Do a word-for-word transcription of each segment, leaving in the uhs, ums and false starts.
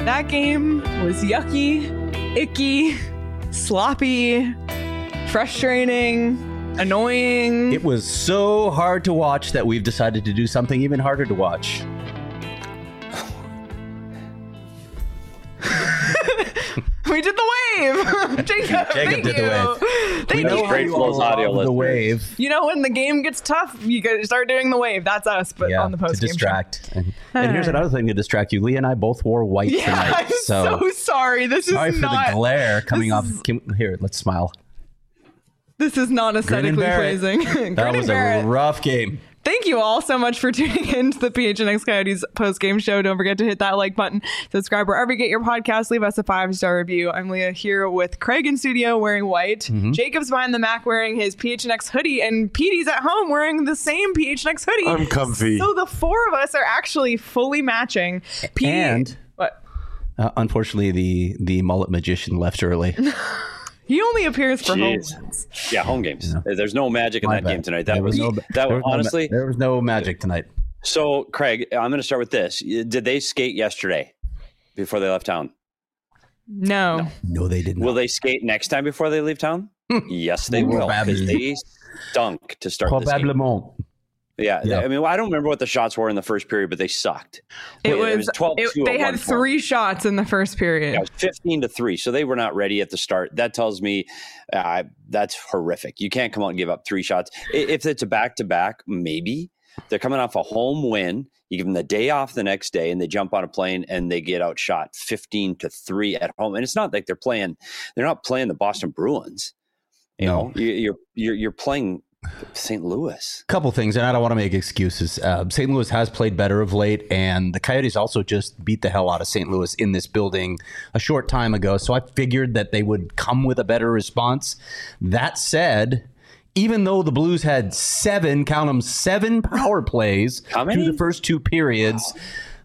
That game was yucky, icky, sloppy, frustrating, annoying. It was so hard to watch that we've decided to do something even harder to watch. We did the wave. Jacob, Jacob thank did you. the wave. Thank We know you. how you all love the wave. You know, when the game gets tough, you gotta start doing the wave. That's us, but Yeah, on the post to game distract. And, and here's another thing to distract you. Leah and I both wore white Yeah, tonight. I'm so, so sorry. This sorry is for not. the glare coming this off. is- Can, here, let's smile. This is not Grin and aesthetically bear it. pleasing. That Grin was and bear a it. rough game. Thank you all so much for tuning in to the P H N X Coyotes post-game show. Don't forget to hit that like button, subscribe wherever you get your podcast, leave us a five-star review. I'm Leah here with Craig in studio wearing white. Mm-hmm. Jacob's behind the Mac wearing his P H N X hoodie, and Petey's at home wearing the same P H N X hoodie. I'm comfy. So the four of us are actually fully matching. Petey, And what? uh, unfortunately, the the mullet magician left early. He only appears for home Jeez. wins. Yeah, home games. Yeah. There's no magic in My that bad. game tonight. That There was, no, that there was was no ma- honestly. there was no magic tonight. So, Craig, I'm going to start with this. Did they skate yesterday before they left town? No. No, they did not. Will they skate next time before they leave town? Yes, they will. Because Probably. they stunk to start this game. Probablement. Yeah, Yeah. I mean, well, I don't remember what the shots were in the first period, but they sucked. It Wait, was, twelve two it, at they one had point. three shots in the first period. Yeah, it was fifteen to three, so they were not ready at the start. That tells me uh, that's horrific. You can't come out and give up three shots. I- If it's a back-to-back, maybe. They're coming off a home win. You give them the day off the next day, and they jump on a plane, and they get outshot fifteen to three at home. And it's not like they're playing – they're not playing the Boston Bruins. You No. know, you- you're, you're, you're playing Saint Louis. Couple things, and I don't want to make excuses. Uh, Saint Louis has played better of late, and the Coyotes also just beat the hell out of Saint Louis in this building a short time ago. So I figured that they would come with a better response. That said, even though the Blues had seven, count them, seven power plays How many? through the first two periods,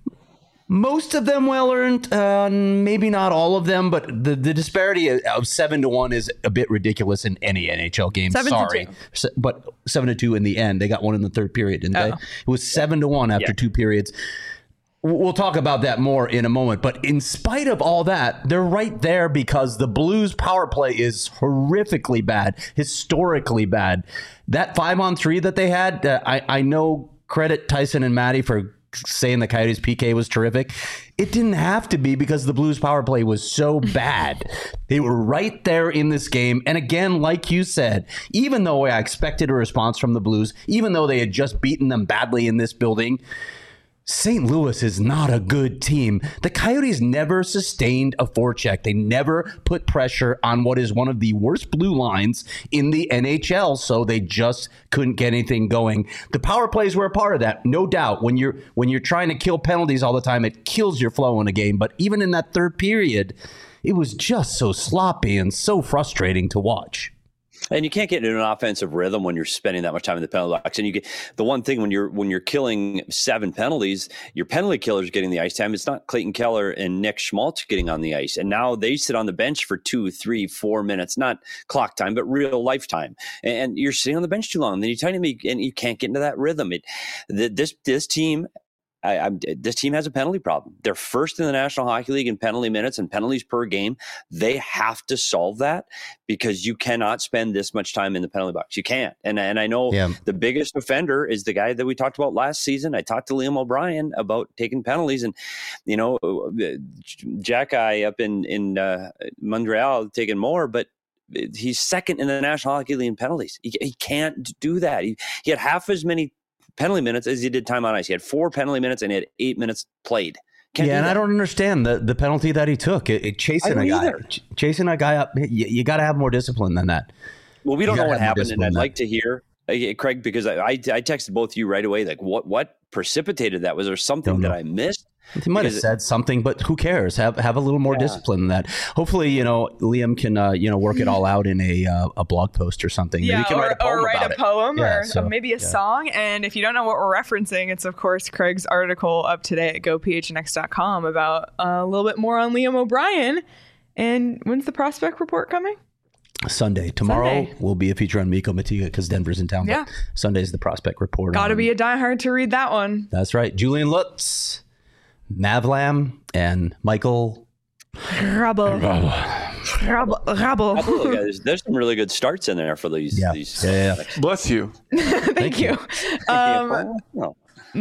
most of them well earned, uh, maybe not all of them, but the, the disparity of seven to one is a bit ridiculous in any N H L game. Seven to Sorry, two. Se- but seven to two in the end. They got one in the third period, didn't they? Oh. It was seven to one after Yeah. two periods. W- We'll talk about that more in a moment. But in spite of all that, they're right there because the Blues power play is horrifically bad, historically bad. That five on three that they had, uh, I, I know credit Tyson and Matty for saying the Coyotes P K was terrific. It didn't have to be because the Blues power play was so bad. They were right there in this game. And again, like you said, even though I expected a response from the Blues, even though they had just beaten them badly in this building, Saint Louis is not a good team. The Coyotes never sustained a forecheck. They never put pressure on what is one of the worst blue lines in the N H L, so they just couldn't get anything going. The power plays were a part of that, no doubt. When you're when you're trying to kill penalties all the time, it kills your flow in a game. But even in that third period, it was just so sloppy and so frustrating to watch. And you can't get into an offensive rhythm when you're spending that much time in the penalty box. And you get the one thing when you're when you're killing seven penalties, your penalty killers getting the ice time. It's not Clayton Keller and Nick Schmaltz getting on the ice, and now they sit on the bench for two, three, four minutes, not clock time, but real lifetime. And you're sitting on the bench too long. And then you tell me, and you can't get into that rhythm. It the, this this team. I, I'm, this team has a penalty problem. They're first in the National Hockey League in penalty minutes and penalties per game. They have to solve that because you cannot spend this much time in the penalty box. You can't. And, and I know Yeah. the biggest offender is the guy that we talked about last season. I talked to Liam O'Brien about taking penalties, and you know, Jack I up in in uh, Montreal taking more, but he's second in the National Hockey League in penalties. He, he can't do that. He, he had half as many penalty minutes as he did time on ice. He had four penalty minutes and he had eight minutes played. Can't yeah, do and that. I don't understand the, the penalty that he took. It, it chasing I a don't guy, either. ch- chasing a guy up. You, you got to have more discipline than that. Well, we don't You know gotta what have more happened, and discipline I'd than like to hear, uh, Craig, because I, I I texted both you right away. Like, what what precipitated that? Was there something Don't that know. I missed? He might have Because- said something, but who cares? Have have a little more Yeah. discipline than that. Hopefully, you know, Liam can uh, you know work it all out in a uh, a blog post or something. Maybe Yeah, he can or, write a poem or write about a it. poem Yeah, or so, maybe a yeah. song. And if you don't know what we're referencing, it's, of course, Craig's article up today at go p h n x dot com about uh, a little bit more on Liam O'Brien. And when's the prospect report coming? Sunday. Tomorrow Sunday. will be a feature on Mikko Matiga because Denver's in town. Yeah. But Sunday's the prospect report. Got to on- be a diehard to read that one. That's right. Julian Lutz, Mavlam and Michael Rubble. Rubble. Rubble. Absolutely, guys. There's some really good starts in there for these. Yeah. these Yeah, yeah. Bless you. Thank, Thank you. you. Um, no.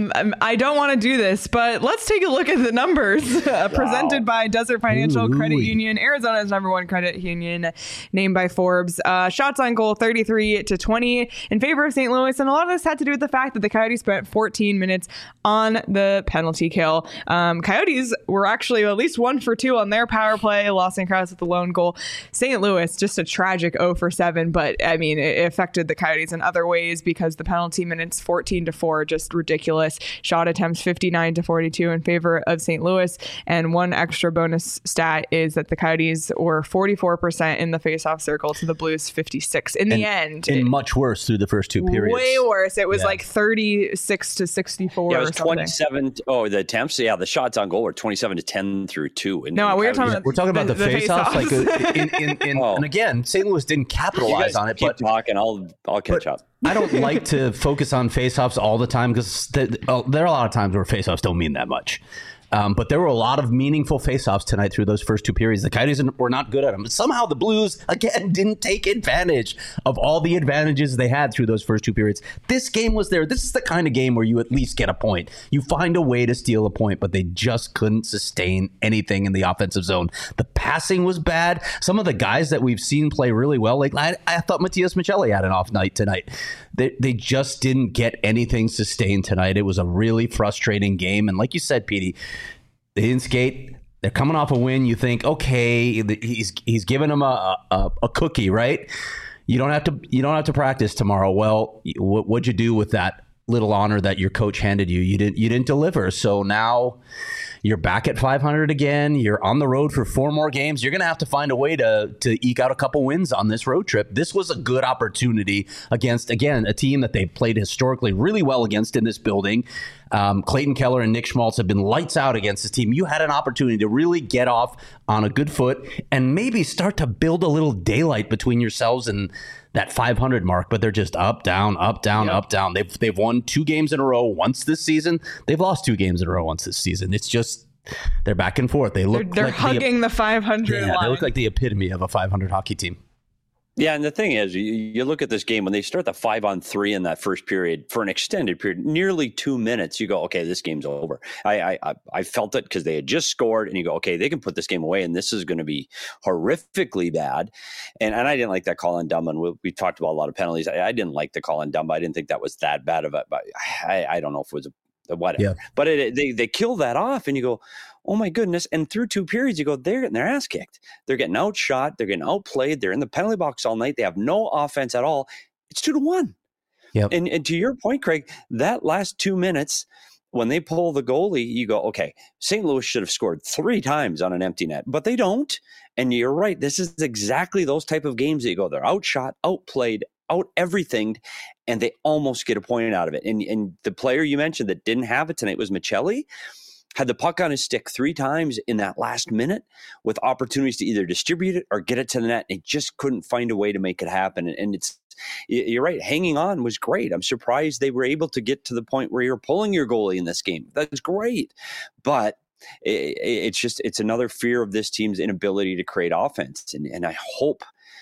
I don't want to do this, but let's take a look at the numbers uh, presented Wow. by Desert Financial Ooh, Credit ooh. Union, Arizona's number one credit union, named by Forbes. Uh, shots on goal, thirty-three to twenty in favor of Saint Louis. And a lot of this had to do with the fact that the Coyotes spent fourteen minutes on the penalty kill. Um, Coyotes were actually at least one for two on their power play. Lawson Krause with the lone goal. Saint Louis, just a tragic zero for seven. But I mean, it affected the Coyotes in other ways because the penalty minutes, fourteen to four, just ridiculous. Shot attempts fifty-nine to forty-two in favor of Saint Louis. And one extra bonus stat is that the Coyotes were forty-four percent in the faceoff circle to the Blues fifty-six. In And, the end, and it- much worse through the first two periods. way worse. It was Yeah. like thirty-six to sixty-four. Yeah, it or was something. twenty-seven. Oh, the attempts. Yeah, the shots on goal were twenty-seven to ten through two. And No, and we were Coyotes- talking about We're talking about the, The- the face-offs. Like, face-offs. uh, in, in, in, Oh. and again, Saint Louis didn't You capitalize guys on it, keep but talking. I'll I'll catch but up. I don't like to focus on face-offs all the time because th- oh, there are a lot of times where face-offs don't mean that much. Um, but there were a lot of meaningful face-offs tonight through those first two periods. The Coyotes were not good at them. But somehow the Blues, again, didn't take advantage of all the advantages they had through those first two periods. This game was there. This is the kind of game where you at least get a point. You find a way to steal a point, but they just couldn't sustain anything in the offensive zone. The passing was bad. Some of the guys that we've seen play really well, like I, I thought Matias Michelli had an off night tonight. They, they just didn't get anything sustained tonight. It was a really frustrating game. And like you said, Petey, they didn't skate. They're coming off a win. You think, okay, he's he's giving them a, a a cookie, right? You don't have to you don't have to practice tomorrow. Well, what what'd you do with that little honor that your coach handed you? You didn't you didn't deliver. So now you're back at five hundred again. You're on the road for four more games. You're going to have to find a way to to eke out a couple wins on this road trip. This was a good opportunity against, again, a team that they played historically really well against in this building. Um, Clayton Keller and Nick Schmaltz have been lights out against this team. You had an opportunity to really get off on a good foot and maybe start to build a little daylight between yourselves and that five hundred mark, but they're just up, down, up, down, Yep. up, down. They've they've won two games in a row once this season. They've lost two games in a row once this season. It's just they're back and forth. They They're, look they're like hugging the, five hundred the, line. yeah, they look like the epitome of a five hundred hockey team. Yeah, and the thing is, you, you look at this game when they start the five on three in that first period for an extended period, nearly two minutes. You go, okay, this game's over. I I, I felt it because they had just scored, and you go, okay, they can put this game away, and this is going to be horrifically bad. And and I didn't like that call on Dumba. We, we talked about a lot of penalties. I, I didn't like the call on Dumba. I didn't think that was that bad of a. But I, I don't know if it was a whatever. Yeah. But it, they they kill that off, and you go, oh my goodness. And through two periods, you go, they're getting their ass kicked. They're getting outshot. They're getting outplayed. They're in the penalty box all night. They have no offense at all. It's two to one. Yep. And, and to your point, Craig, that last two minutes, when they pull the goalie, you go, okay, Saint Louis should have scored three times on an empty net, but they don't. And you're right. This is exactly those type of games that you go, they're outshot, outplayed, out everything, and they almost get a point out of it. And, and the player you mentioned that didn't have it tonight was Michelli. Had the puck on his stick three times in that last minute with opportunities to either distribute it or get it to the net. It just couldn't find a way to make it happen. And it's, you're right, hanging on was great. I'm surprised they were able to get to the point where you're pulling your goalie in this game. That's great. But it, it's just, it's another fear of this team's inability to create offense. And, and I hope,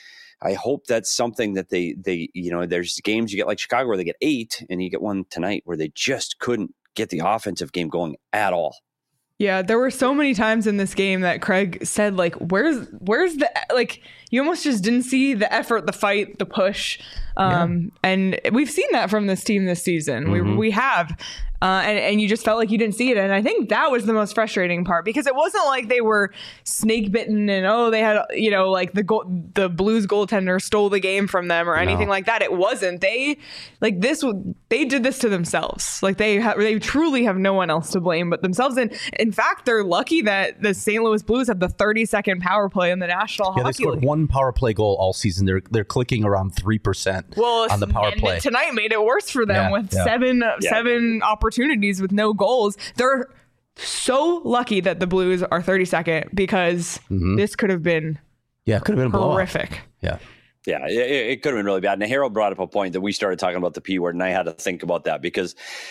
I hope that's something that they, they, you know, there's games you get like Chicago where they get eight, and you get one tonight where they just couldn't get the offensive game going at all. Yeah, there were so many times in this game that Craig said, like, where's where's the, like, you almost just didn't see the effort, the fight, the push. Um, yeah. And we've seen that from this team this season. Mm-hmm. We we have. Uh, and, and you just felt like you didn't see it. And I think that was the most frustrating part, because it wasn't like they were snake bitten and, oh, they had, you know, like the goal, the Blues goaltender stole the game from them or anything no. like that. It wasn't. They like this. They did this to themselves. Like they ha- they truly have no one else to blame but themselves. And in fact, they're lucky that the Saint Louis Blues have the thirty-second power play in the National yeah, Hockey they scored League. One power play goal all season. They're they're clicking around three percent well, on the power and play. Tonight made it worse for them yeah, with yeah. seven yeah. seven opportunities with no goals. They're so lucky that the Blues are thirty-second because mm-hmm. this could have been yeah, it could have been a horrific. blowout. Yeah. Yeah, it, it could have been really bad. And Harold brought up a point that we started talking about the P word, and I had to think about that because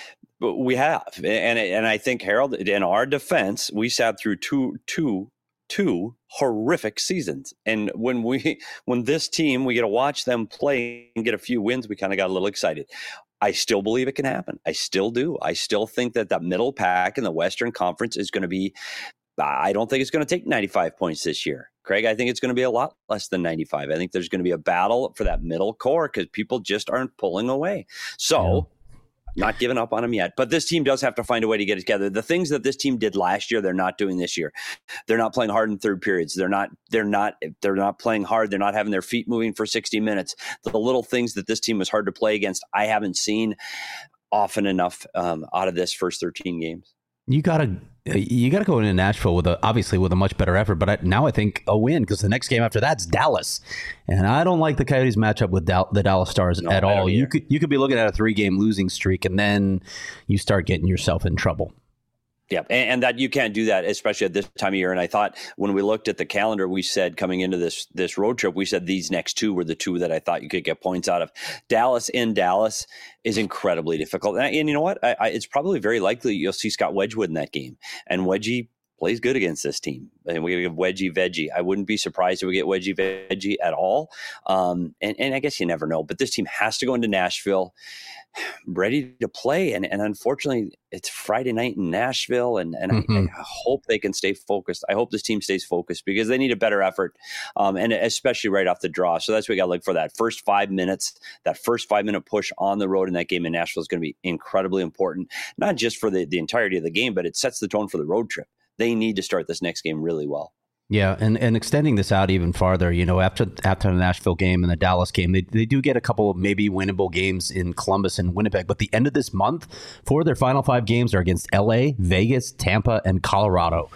we have. And and I think, Harold, in our defense, we sat through two, two, two horrific seasons. And when we when this team, we get to watch them play and get a few wins, we kind of got a little excited. I still believe it can happen. I still do. I still think that that middle pack in the Western Conference is going to be, I don't think it's going to take ninety-five points this year. Craig, I think it's going to be a lot less than ninety-five. I think there's going to be a battle for that middle core because people just aren't pulling away. So yeah. Not giving up on them yet. But this team does have to find a way to get it together. The things that this team did last year, they're not doing this year. They're not playing hard in third periods. They're not, they're not, they're not playing hard. They're not having their feet moving for sixty minutes. The little things that this team was hard to play against, I haven't seen often enough um, out of this first thirteen games. You gotta, you gotta go into Nashville with a obviously with a much better effort. But I, now I think a win because the next game after that's Dallas, and I don't like the Coyotes matchup with Dal- the Dallas Stars no, at all. You could you could be looking at a three game losing streak, and then you start getting yourself in trouble. Yeah, and, and that you can't do that, especially at this time of year. And I thought when we looked at the calendar, we said coming into this this road trip, we said these next two were the two that I thought you could get points out of. Dallas in Dallas is incredibly difficult. And, and you know what? I, I, it's probably very likely you'll see Scott Wedgwood in that game. And Wedgie plays good against this team. And we're going to give Wedgie Veggie. I wouldn't be surprised if we get Wedgie Veggie at all. Um, and, and I guess you never know. But this team has to go into Nashville ready to play. And, and unfortunately, it's Friday night in Nashville. And, and mm-hmm. I, I hope they can stay focused. I hope this team stays focused because they need a better effort, um, and especially right off the draw. So that's what we got to look for. That first five minutes, that first five minute push on the road in that game in Nashville is going to be incredibly important, not just for the, the entirety of the game, but it sets the tone for the road trip. They need to start this next game really well. Yeah, and, and extending this out even farther, you know, after after the Nashville game and the Dallas game, they, they do get a couple of maybe winnable games in Columbus and Winnipeg. But the end of this month, for their final five games are against L A, Vegas, Tampa, and Colorado.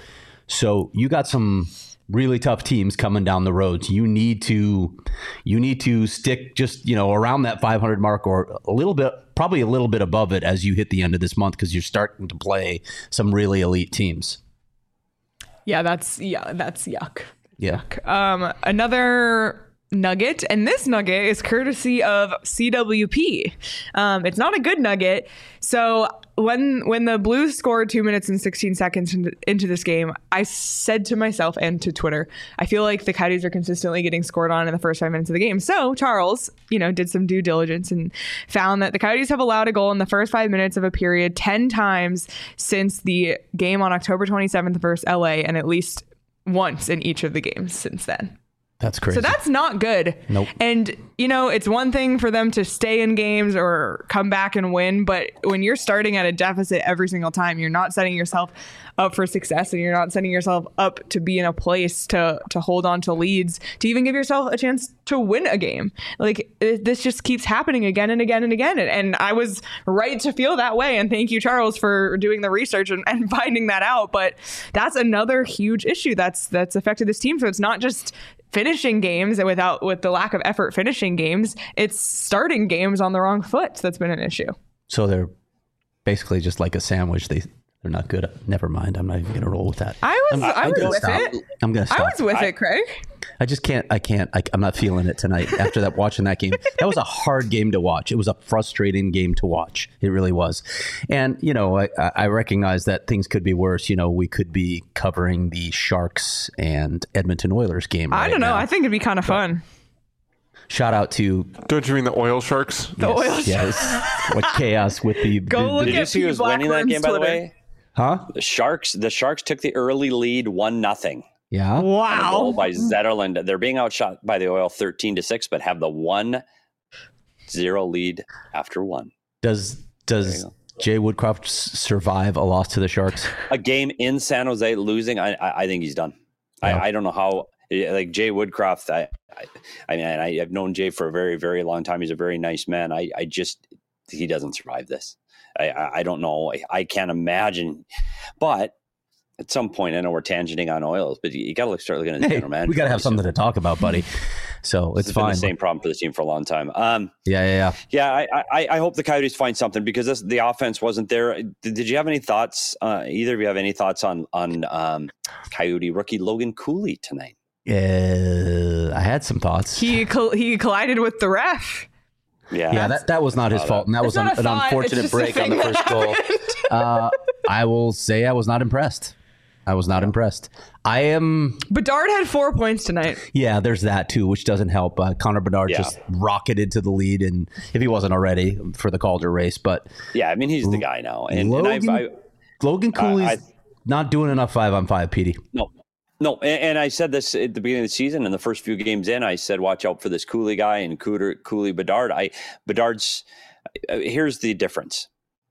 So you got some really tough teams coming down the road. You need to you need to stick just, you know, around that five hundred mark or a little bit, probably a little bit above it as you hit the end of this month because you're starting to play some really elite teams. Yeah, that's yeah, that's yuck. Yeah. Yuck. Um, another nugget, and this nugget is courtesy of C W P. Um, it's not a good nugget. So when when the Blues scored two minutes and sixteen seconds into, into this game, I said to myself and to Twitter, I feel like the Coyotes are consistently getting scored on in the first five minutes of the game. So Charles, you know, did some due diligence and found that the Coyotes have allowed a goal in the first five minutes of a period ten times since the game on October twenty-seventh versus L A, and at least once in each of the games since then. That's crazy. So that's not good. Nope. And, you know, it's one thing for them to stay in games or come back and win. But when you're starting at a deficit every single time, you're not setting yourself up for success and you're not setting yourself up to be in a place to to hold on to leads, to even give yourself a chance to win a game. Like, it, this just keeps happening again and again and again. And, and I was right to feel that way. And thank you, Charles, for doing the research and, and finding that out. But that's another huge issue that's that's affected this team. So it's not just finishing games and without with the lack of effort finishing games, it's starting games on the wrong foot. That's been an issue. So they're basically just like a sandwich. They they're not good at, never mind. I'm not even gonna roll with that. I was I'm, I I'm was with stop. it. I'm gonna stop. I was with I, it, Craig. I just can't. I can't. I, I'm not feeling it tonight. After that, watching that game, that was a hard game to watch. It was a frustrating game to watch. It really was. And you know, I, I recognize that things could be worse. You know, we could be covering the Sharks and Edmonton Oilers game. I right don't know. now. I think it'd be kind of fun. Shout out to. Don't you mean the Oil Sharks? The yes, Oil Sharks. Yes. What chaos with the. Go the, look the, Did you at see who was winning that game, by the way? Huh? The Sharks. The Sharks took the early lead, one nothing. Yeah. Wow. By Zetterlund. They're being outshot by the Oil thirteen to six, but have the one zero lead after one. Does does Jay Woodcroft s- survive a loss to the Sharks? A game in San Jose losing, I I, I think he's done. Yeah. I, I don't know how. Like Jay Woodcroft, I I, I mean, I, I've known Jay for a very very long time. He's a very nice man. I I just he doesn't survive this. I I, I don't know. I, I can't imagine, but. At some point, I know we're tangenting on Oils, but you, you got to look, start looking at the Hey, general manager. we got to have something to talk about, buddy. So it's It's fine. been the same problem for this team for a long time. Um, yeah, yeah, yeah. Yeah, I, I, I hope the Coyotes find something because this, the offense wasn't there. Did, did you have any thoughts? Uh, either of you have any thoughts on on um, Coyote rookie Logan Cooley tonight? Uh, I had some thoughts. He col- he collided with the ref. Yeah, yeah, that, that was not his fault, and that was an, an unfortunate break on the first goal. Uh, I will say I was not impressed. I was not impressed. I am. Bedard had four points tonight. Yeah, there's that too, which doesn't help. Uh, Connor Bedard yeah. just rocketed to the lead, and if he wasn't already for the Calder race, but yeah, I mean he's the guy now. And, Logan, and I've, I, Logan Cooley's I, I, not doing enough five on five, Petey. No. No, and, and I said this at the beginning of the season, and the first few games in, I said, watch out for this Cooley guy and Cooter, Cooley Bedard. I Bedard's uh, here's the difference.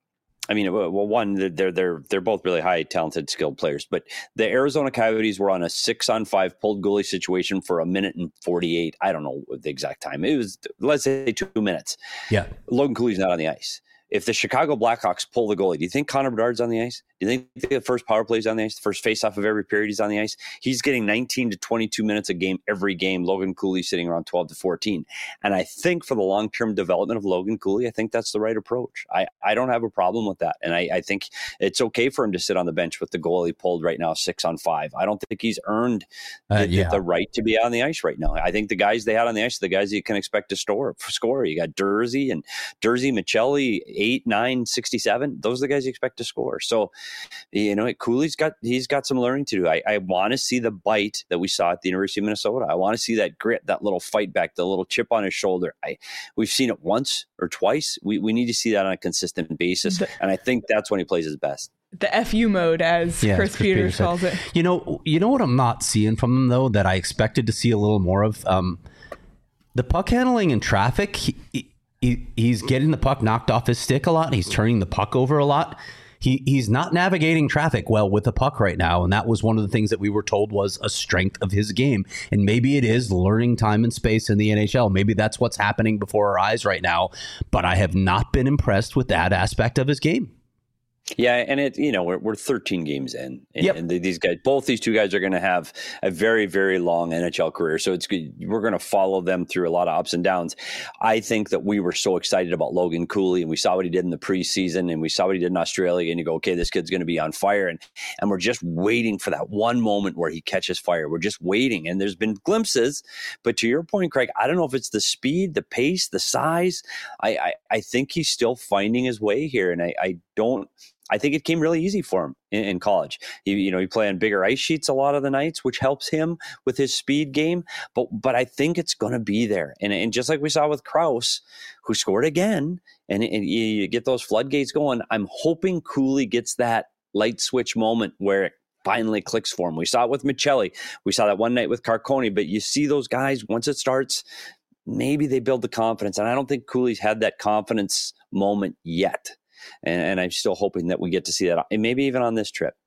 I mean, well, one, they're they're they're both really high, talented, skilled players, but the Arizona Coyotes were on a six on five pulled goalie situation for a minute and forty-eight. I don't know the exact time. It was, let's say, two minutes. Yeah, Logan Cooley's not on the ice. If the Chicago Blackhawks pull the goalie, do you think Connor Bedard's on the ice? Do you think the first power play is on the ice? The first face-off of every period he's on the ice? He's getting nineteen to twenty-two minutes a game every game. Logan Cooley sitting around twelve to fourteen. And I think for the long-term development of Logan Cooley, I think that's the right approach. I, I don't have a problem with that. And I, I think it's okay for him to sit on the bench with the goalie pulled right now six on five. I don't think he's earned the, uh, yeah. the, the right to be on the ice right now. I think the guys they had on the ice are the guys you can expect to store, score. You got Dursey and Dursey, Michelli, eight, nine, sixty-seven. Those are the guys you expect to score. So, you know, Cooley's got he's got some learning to do. I, I want to see the bite that we saw at the University of Minnesota. I want to see that grit, that little fight back, the little chip on his shoulder. I we've seen it once or twice. We we need to see that on a consistent basis, the, and I think that's when he plays his best. The F U mode, as yeah, Chris, Chris Peters, Peters calls it. You know, you know what I'm not seeing from him though that I expected to see a little more of. Um, the puck handling in traffic. He, he, he's getting the puck knocked off his stick a lot. He's turning the puck over a lot. He he's not navigating traffic well with the puck right now, and that was one of the things that we were told was a strength of his game. And maybe it is learning time and space in the N H L. Maybe that's what's happening before our eyes right now. But I have not been impressed with that aspect of his game. Yeah, and it you know we're we're thirteen games in, and, yep. and these guys, both these two guys, are going to have a very very long N H L career. So it's good. We're going to follow them through a lot of ups and downs. I think that we were so excited about Logan Cooley, and we saw what he did in the preseason, and we saw what he did in Australia, and you go, okay, this kid's going to be on fire, and and we're just waiting for that one moment where he catches fire. We're just waiting, and there's been glimpses, but to your point, Craig, I don't know if it's the speed, the pace, the size. I I, I think he's still finding his way here, and I, I don't. I think it came really easy for him in, in college. He, you know, he played on bigger ice sheets a lot of the nights, which helps him with his speed game. But but I think it's going to be there. And and just like we saw with Krause, who scored again, and, and you get those floodgates going. I'm hoping Cooley gets that light switch moment where it finally clicks for him. We saw it with Michelli. We saw that one night with Carconi. But you see those guys, once it starts, maybe they build the confidence. And I don't think Cooley's had that confidence moment yet. And, and I'm still hoping that we get to see that, and maybe even on this trip.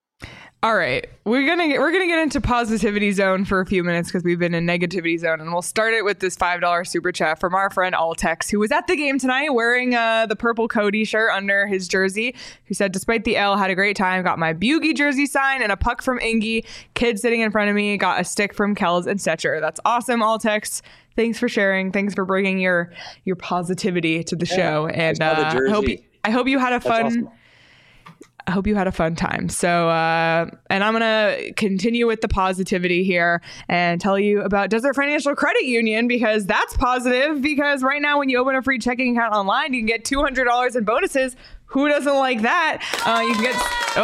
All right, we're gonna get, we're gonna get into positivity zone for a few minutes because we've been in negativity zone, and we'll start it with this five dollar super chat from our friend Altex, who was at the game tonight wearing uh, the purple Cody shirt under his jersey. Who said, despite the L, had a great time. Got my Bugey jersey sign and a puck from Ingy. Kid sitting in front of me got a stick from Kells and Stetcher. That's awesome, Altex. Thanks for sharing. Thanks for bringing your your positivity to the yeah, show, and uh, I hope you, I hope you had a fun. Awesome. I hope you had a fun time. So, uh, and I'm going to continue with the positivity here and tell you about Desert Financial Credit Union, because that's positive. Because right now, when you open a free checking account online, you can get two hundred dollars in bonuses. Who doesn't like that? Uh, you can get.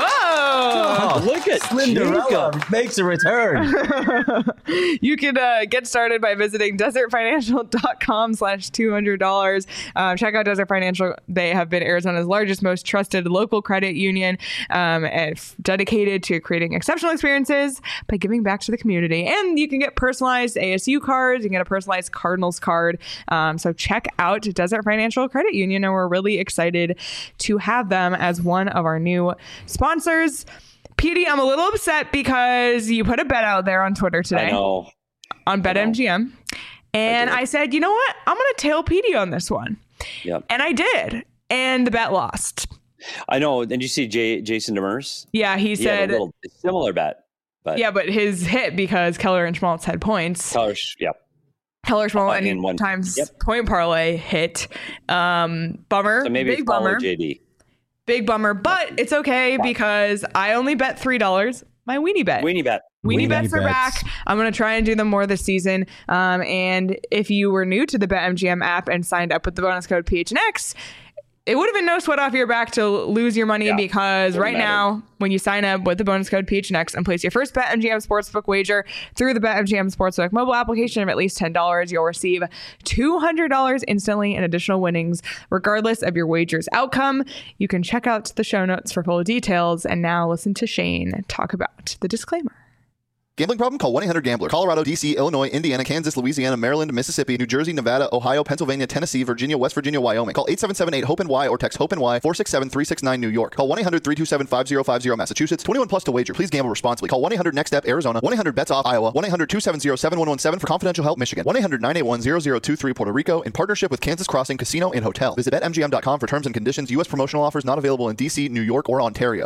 Oh, oh look at Slinderella makes a return. You can uh, get started by visiting desertfinancial.com slash $200. Um, check out Desert Financial. They have been Arizona's largest, most trusted local credit union, um, and f- dedicated to creating exceptional experiences by giving back to the community. And you can get personalized A S U cards. You can get a personalized Cardinals card. Um, so check out Desert Financial Credit Union, and we're really excited to have them as one of our new sponsors. Petey, I'm a little upset because you put a bet out there on Twitter today. I know. On BetMGM. And I, I said, you know what? I'm going to tail Petey on this one. Yep. And I did. And the bet lost. I know. Did you see Jay, Jason Demers? Yeah, he, he said. Had a little similar bet. But yeah, but his hit because Keller and Schmaltz had points. Keller, yep. Keller Schmaltz any one times yep. point parlay hit. Um, bummer. So maybe big bummer. J D. Big bummer, but it's okay because I only bet three dollars my weenie bet. Weenie bet. Weenie, Weenie bets are bets. back. I'm going to try and do them more this season. Um, and if you were new to the BetMGM app and signed up with the bonus code P H N X, it would have been no sweat off your back to lose your money Yeah, because right matter. now, when you sign up with the bonus code P H N X and place your first BetMGM Sportsbook wager through the BetMGM Sportsbook mobile application of at least ten dollars, you'll receive two hundred dollars instantly in additional winnings, regardless of your wager's outcome. You can check out the show notes for full details. And now listen to Shane talk about the disclaimer. Gambling problem? Call one eight hundred gambler. Colorado, D C, Illinois, Indiana, Kansas, Louisiana, Maryland, Mississippi, New Jersey, Nevada, Ohio, Pennsylvania, Tennessee, Virginia, West Virginia, Wyoming. Call eight seven seven eight hope N Y or text hope N Y four six seven three six nine New York. Call one eight hundred three two seven five zero five zero Massachusetts. twenty-one plus to wager. Please gamble responsibly. Call one eight hundred next step Arizona. one eight hundred bets off Iowa. one eight hundred two seven zero seven one one seven for confidential help Michigan. one eight hundred nine eight one zero zero two three Puerto Rico in partnership with Kansas Crossing Casino and Hotel. Visit bet M G M dot com for terms and conditions. U S promotional offers not available in D C, New York, or Ontario.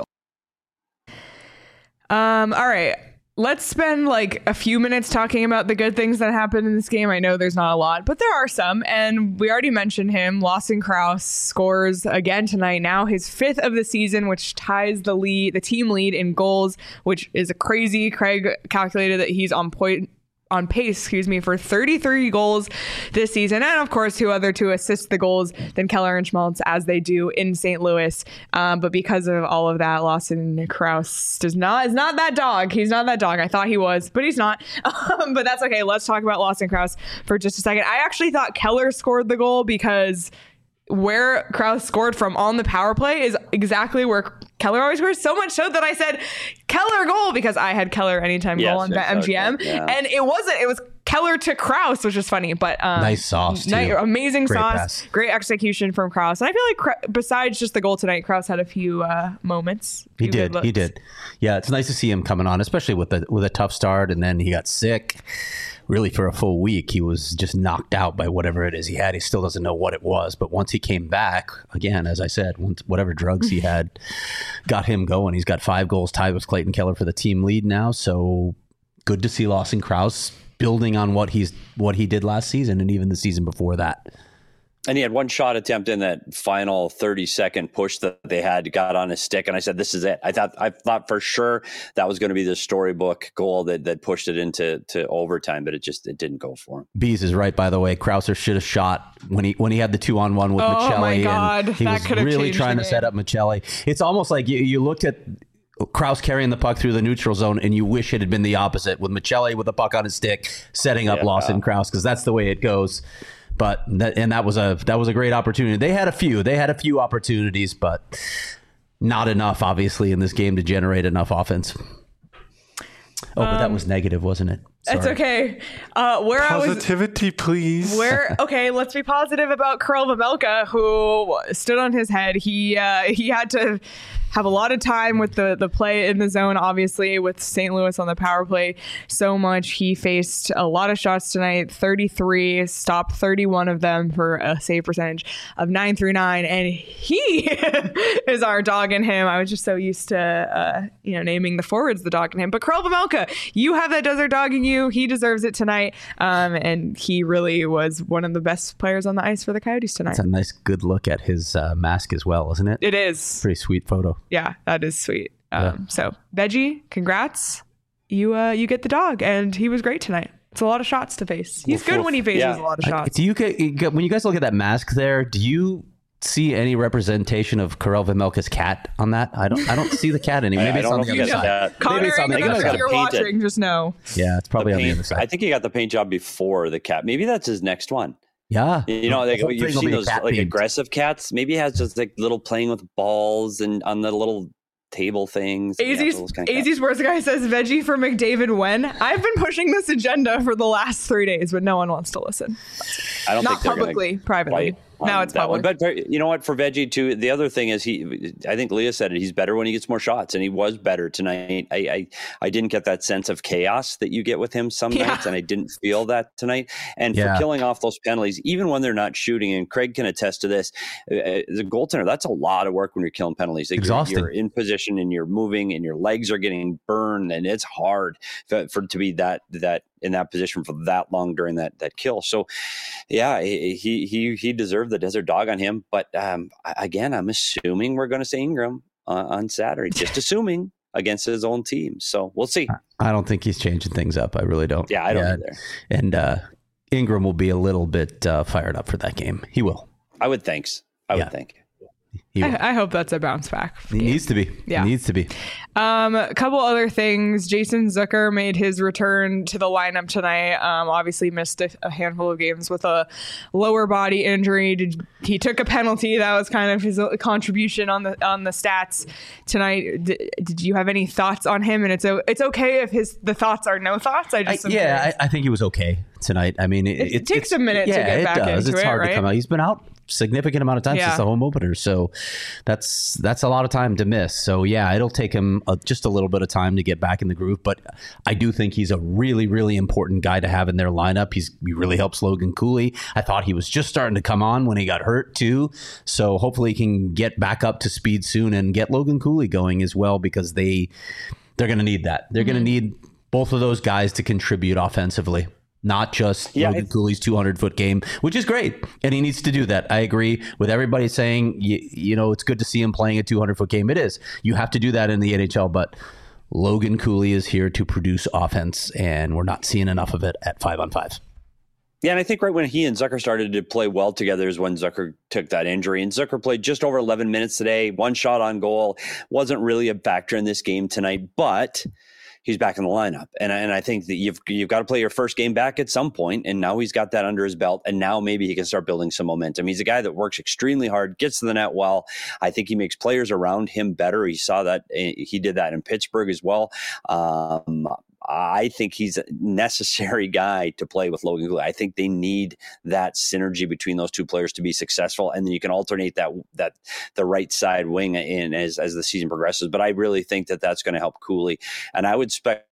Um, all right. Let's spend like a few minutes talking about the good things that happened in this game. I know there's not a lot, but there are some. And we already mentioned him. Lawson Crouse scores again tonight. Now his fifth of the season, which ties the lead, the team lead in goals, which is a crazy. Craig calculated that he's on point. on pace, excuse me, for thirty-three goals this season. And of course, who other to assist the goals than Keller and Schmaltz as they do in Saint Louis. Um, but because of all of that, Lawson Crouse does not, is not that dog. He's not that dog. I thought he was, but he's not. Um, but that's okay. Let's talk about Lawson Crouse for just a second. I actually thought Keller scored the goal because where Crouse scored from on the power play is exactly where Keller always scores. So much so that I said Keller goal because I had Keller anytime Yes, goal on BetMGM. yeah. And it wasn't, it was Keller to Crouse, which is funny, but um, Nice sauce, ni- too. amazing Great sauce, pass. great execution from Crouse. And I feel like Cra- besides just the goal tonight, Crouse had a few uh, moments. He few did. good He looks. did. Yeah, it's nice to see him coming on, especially with a with a tough start, and then he got sick. Really, for a full week, he was just knocked out by whatever it is he had. He still doesn't know what it was, but once he came back, again, as I said, once whatever drugs he had got him going. He's got five goals, tied with Clayton Keller for the team lead now. So good to see Lawson Crouse building on what he's what he did last season and even the season before that. And he had one shot attempt in that final thirty second push that they had, got on his stick. And I said, this is it. I thought, I thought for sure that was going to be the storybook goal that, that pushed it into to overtime, but it just, it didn't go for him. Bees is right, by the way. Krauser should have shot when he when he had the two on one with Oh, Michelli. my God. And he That was could have really changed trying the to set game. up Michelli. It's almost like you, you looked at Crouse carrying the puck through the neutral zone and you wish it had been the opposite with Michelli with the puck on his stick, setting up Yeah. Lawson Crouse, because that's the way it goes. But that, and that was a that was a great opportunity. They had a few. They had a few opportunities, but not enough, obviously, in this game to generate enough offense. Oh, but that was negative, wasn't it? That's Sorry. okay. Uh, where I was Positivity, please. Where okay, let's be positive about Karel Vejmelka, who stood on his head. He uh, he had to have a lot of time with the the play in the zone, obviously, with Saint Louis on the power play so much. He faced a lot of shots tonight, thirty-three, stopped thirty-one of them for a save percentage of nine through nine, and he is our dog in him. I was just so used to uh, you know naming the forwards the dog in him, but Karel Vejmelka, you have that desert dog in you. He deserves it tonight, um, and he really was one of the best players on the ice for the Coyotes tonight. It's a nice, good look at his uh, mask as well, isn't it? It is. Pretty sweet photo. Yeah, that is sweet. Um, Yeah. So, Veggie, congrats. You uh, you get the dog, and he was great tonight. It's a lot of shots to face. He's good when he faces Yeah. a lot of I- shots. do you get, you get- when you guys look at that mask there? Do you see any representation of Karel Vejmelka's cat on that? I don't. I don't see the cat anymore. Maybe I it's don't on know the if other you side. got that. Connor, Maybe it's on the if other side. you're Paint it. watching, just know. Yeah, it's probably The on the paint- other side. I think he got the paint job before the cat. Maybe that's his next one. yeah, You know, The like, whole you've thing will seen be those cat like themed. aggressive cats. Maybe he has just like little playing with balls and on the little table things. Yeah, Azzy's those kind of cats. Azzy's worst guy says Veggie for McDavid when. I've been pushing this agenda for the last three days, but no one wants to listen. I don't Not think they're gonna publicly, privately. fight on Now it's that public. one. But you know what? For Veggie too, the other thing is he. I think Leah said it. He's better when he gets more shots, and he was better tonight. I I, I didn't get that sense of chaos that you get with him some Yeah. nights, and I didn't feel that tonight. And Yeah. for killing off those penalties, even when they're not shooting, and Craig can attest to this, uh, as a goaltender, that's a lot of work when you're killing penalties. Like, you're- Exhausting. You're in position and you're moving, and your legs are getting burned, and it's hard for, for to be that that. in that position for that long during that that kill. So yeah, he he he deserved the desert dog on him. But um, again, I'm assuming we're going to see Ingram uh, on Saturday. Just assuming. against his own team. So we'll see. I don't think he's changing things up. I really don't. Yeah, I don't yeah. either. And uh, Ingram will be a little bit uh, fired up for that game. He will. I would think. I yeah. would think. I, I hope that's a bounce back. He game. needs to be. Yeah. He needs to be. Um, a couple other things. Jason Zucker made his return to the lineup tonight. Um, obviously missed a, a handful of games with a lower body injury. Did, he took a penalty. That was kind of his contribution on the on the stats tonight. Did, did you have any thoughts on him? And it's it's okay if his the thoughts are no thoughts. I just I, yeah, I, I think he was okay tonight. I mean, it, it, it takes a minute yeah, to get back it does. into it's it. hard right? to come out. He's been out significant amount of time yeah. since the home opener, so that's that's a lot of time to miss. So yeah, it'll take him a, just a little bit of time to get back in the groove, but I do think he's a really really important guy to have in their lineup. He's he really helps Logan Cooley. I thought he was just starting to come on when he got hurt too, so hopefully he can get back up to speed soon and get Logan Cooley going as well, because they they're going to need that. They're mm-hmm. going to need both of those guys to contribute offensively. Not just yeah, Logan Cooley's two hundred foot game, which is great. And he needs to do that. I agree with everybody saying, you, you know, it's good to see him playing a two hundred foot game. It is. You have to do that in the N H L. But Logan Cooley is here to produce offense, and we're not seeing enough of it at five on five. Yeah, and I think right when he and Zucker started to play well together is when Zucker took that injury. And Zucker played just over eleven minutes today, one shot on goal. Wasn't really a factor in this game tonight, but he's back in the lineup. And, and I think that you've you've got to play your first game back at some point, and now he's got that under his belt, and now maybe he can start building some momentum. He's a guy that works extremely hard, gets to the net well. I think he makes players around him better. He saw that. He did that in Pittsburgh as well. Um, I think he's a necessary guy to play with Logan Cooley. I think they need that synergy between those two players to be successful, and then you can alternate that that the right side wing in as as the season progresses. But I really think that that's going to help Cooley, and I would expect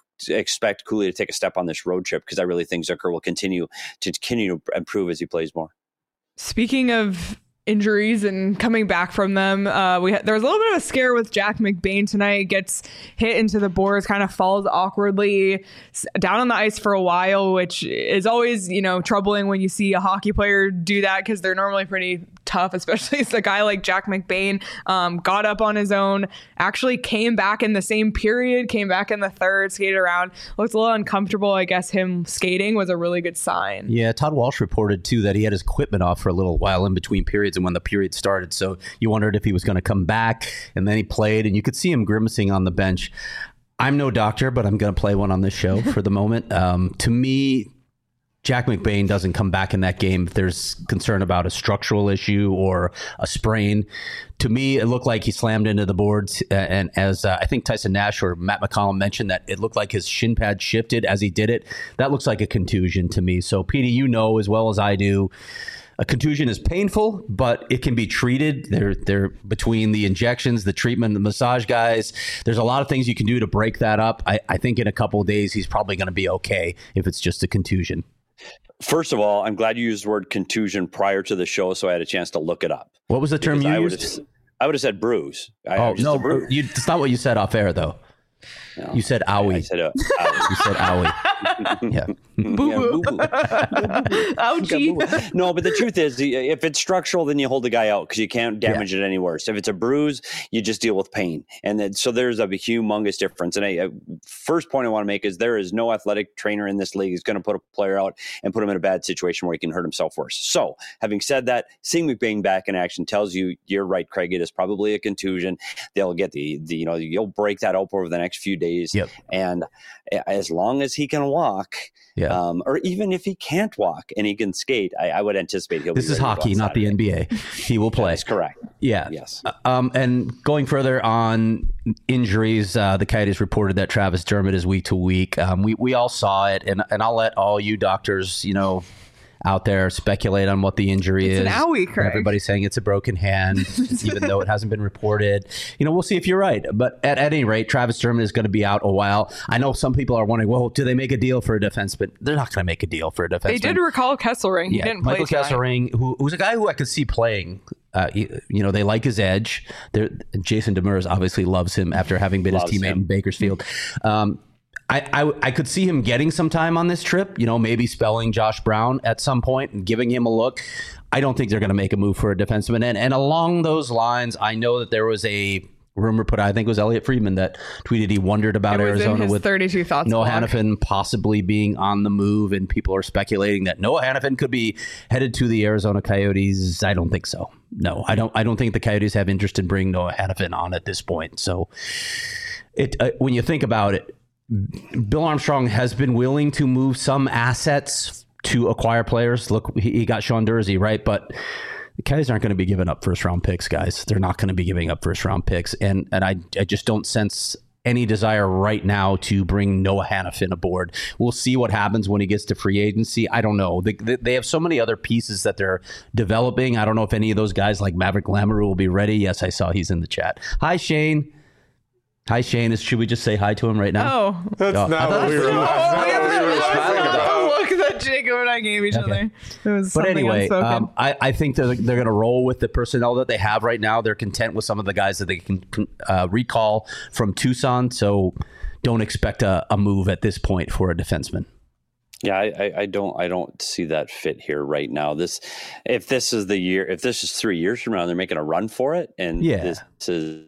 expect Cooley to take a step on this road trip, because I really think Zucker will continue to continue to improve as he plays more. Speaking of injuries and coming back from them, uh we ha- there was a little bit of a scare with Jack McBain tonight. Gets hit into the boards, kind of falls awkwardly down on the ice for a while, which is always, you know, troubling when you see a hockey player do that, because they're normally pretty tough, especially as a guy like Jack McBain. Um, got up on his own, actually came back in the same period, came back in the third, skated around, looked a little uncomfortable. I guess him skating was a really good sign. Yeah, Todd Walsh reported too that he had his equipment off for a little while in between periods and when the period started, so you wondered if he was going to come back, and then he played, and you could see him grimacing on the bench. I'm no doctor, but I'm going to play one on this show for the moment. Um, to me, Jack McBain doesn't come back in that game if there's concern about a structural issue or a sprain. To me, it looked like he slammed into the boards, and as uh, I think Tyson Nash or Matt McCollum mentioned, that it looked like his shin pad shifted as he did it. That looks like a contusion to me. So, Petey, you know as well as I do, a contusion is painful, but it can be treated. They're, they're between the injections, the treatment, the massage guys. There's a lot of things you can do to break that up. I, I think in a couple of days, he's probably going to be okay if it's just a contusion. First of all, I'm glad you used the word contusion prior to the show, so I had a chance to look it up. What was the term you I used? I would have said bruise. I, oh, no, bruise. You, that's not what you said off air, though. No, you said owie. I, I said uh, owie. You said owie. Yeah. Boo-boo. Ouchie. No, but the truth is, if it's structural, then you hold the guy out because you can't damage yeah. it any worse. If it's a bruise, you just deal with pain. And then, so there's a humongous difference. And I, I, first point I want to make is there is no athletic trainer in this league who's going to put a player out and put him in a bad situation where he can hurt himself worse. So having said that, seeing McBain back in action tells you you're right, Craig. It is probably a contusion. They'll get the, the you know, you'll break that up over the next few days. Yep. And as long as he can walk, yeah. um, or even if he can't walk and he can skate, I, I would anticipate he'll this be is hockey, not the N B A. He will play. That's correct. Yeah. Yes. Um, and going further on injuries, uh, the Coyotes reported that Travis Dermott is week to week. Um, we, we all saw it, and, and I'll let all you doctors, you know, out there speculate on what the injury it's is. An owie, Craig. Everybody's saying it's a broken hand, even though it hasn't been reported. You know, we'll see if you're right. But at, at any rate, Travis Dermott is going to be out a while. I know some people are wondering, well, do they make a deal for a defenseman? They're not going to make a deal for a defenseman. They did recall Kesselring. He yeah, didn't Michael play Kesselring, who, who's a guy who I could see playing. Uh, you, you know, they like his edge. They're, Jason Demers obviously loves him after having been loves his teammate him. in Bakersfield. Um, I, I I could see him getting some time on this trip, you know, maybe spelling Josh Brown at some point and giving him a look. I don't think they're going to make a move for a defenseman. And, and along those lines, I know that there was a rumor put, I think it was Elliot Friedman that tweeted he wondered about It was in Arizona his with thirty-two thoughts Noah blog. Hannafin possibly being on the move, and people are speculating that Noah Hannafin could be headed to the Arizona Coyotes. I don't think so. No, I don't. I don't think the Coyotes have interest in bringing Noah Hannafin on at this point. So, it uh, when you think about it, Bill Armstrong has been willing to move some assets to acquire players. Look, he, he got Sean Durzi, right? But the Coyotes aren't going to be giving up first round picks, guys. They're not going to be giving up first round picks. And and I, I just don't sense any desire right now to bring Noah Hannafin aboard. We'll see what happens when he gets to free agency. I don't know. They, they, they have so many other pieces that they're developing. I don't know if any of those guys like Maverick Lamoureux will be ready. Yes, I saw he's in the chat. Hi, Shane. Hi, Shane. Is, should we just say hi to him right now? Oh. That's Oh, I not thought what we that's were. what- That's not look at what we the- were look smiling at about. the look that Jacob and I gave each Okay. other. It was But something anyway, unspoken. um, I, I think they're, they're going to roll with the personnel that they have right now. They're content with some of the guys that they can uh, recall from Tucson. So don't expect a, a move at this point for a defenseman. Yeah, I, I, I don't I don't see that fit here right now. This, if this is the year, if this is three years from now, they're making a run for it, and Yeah. this is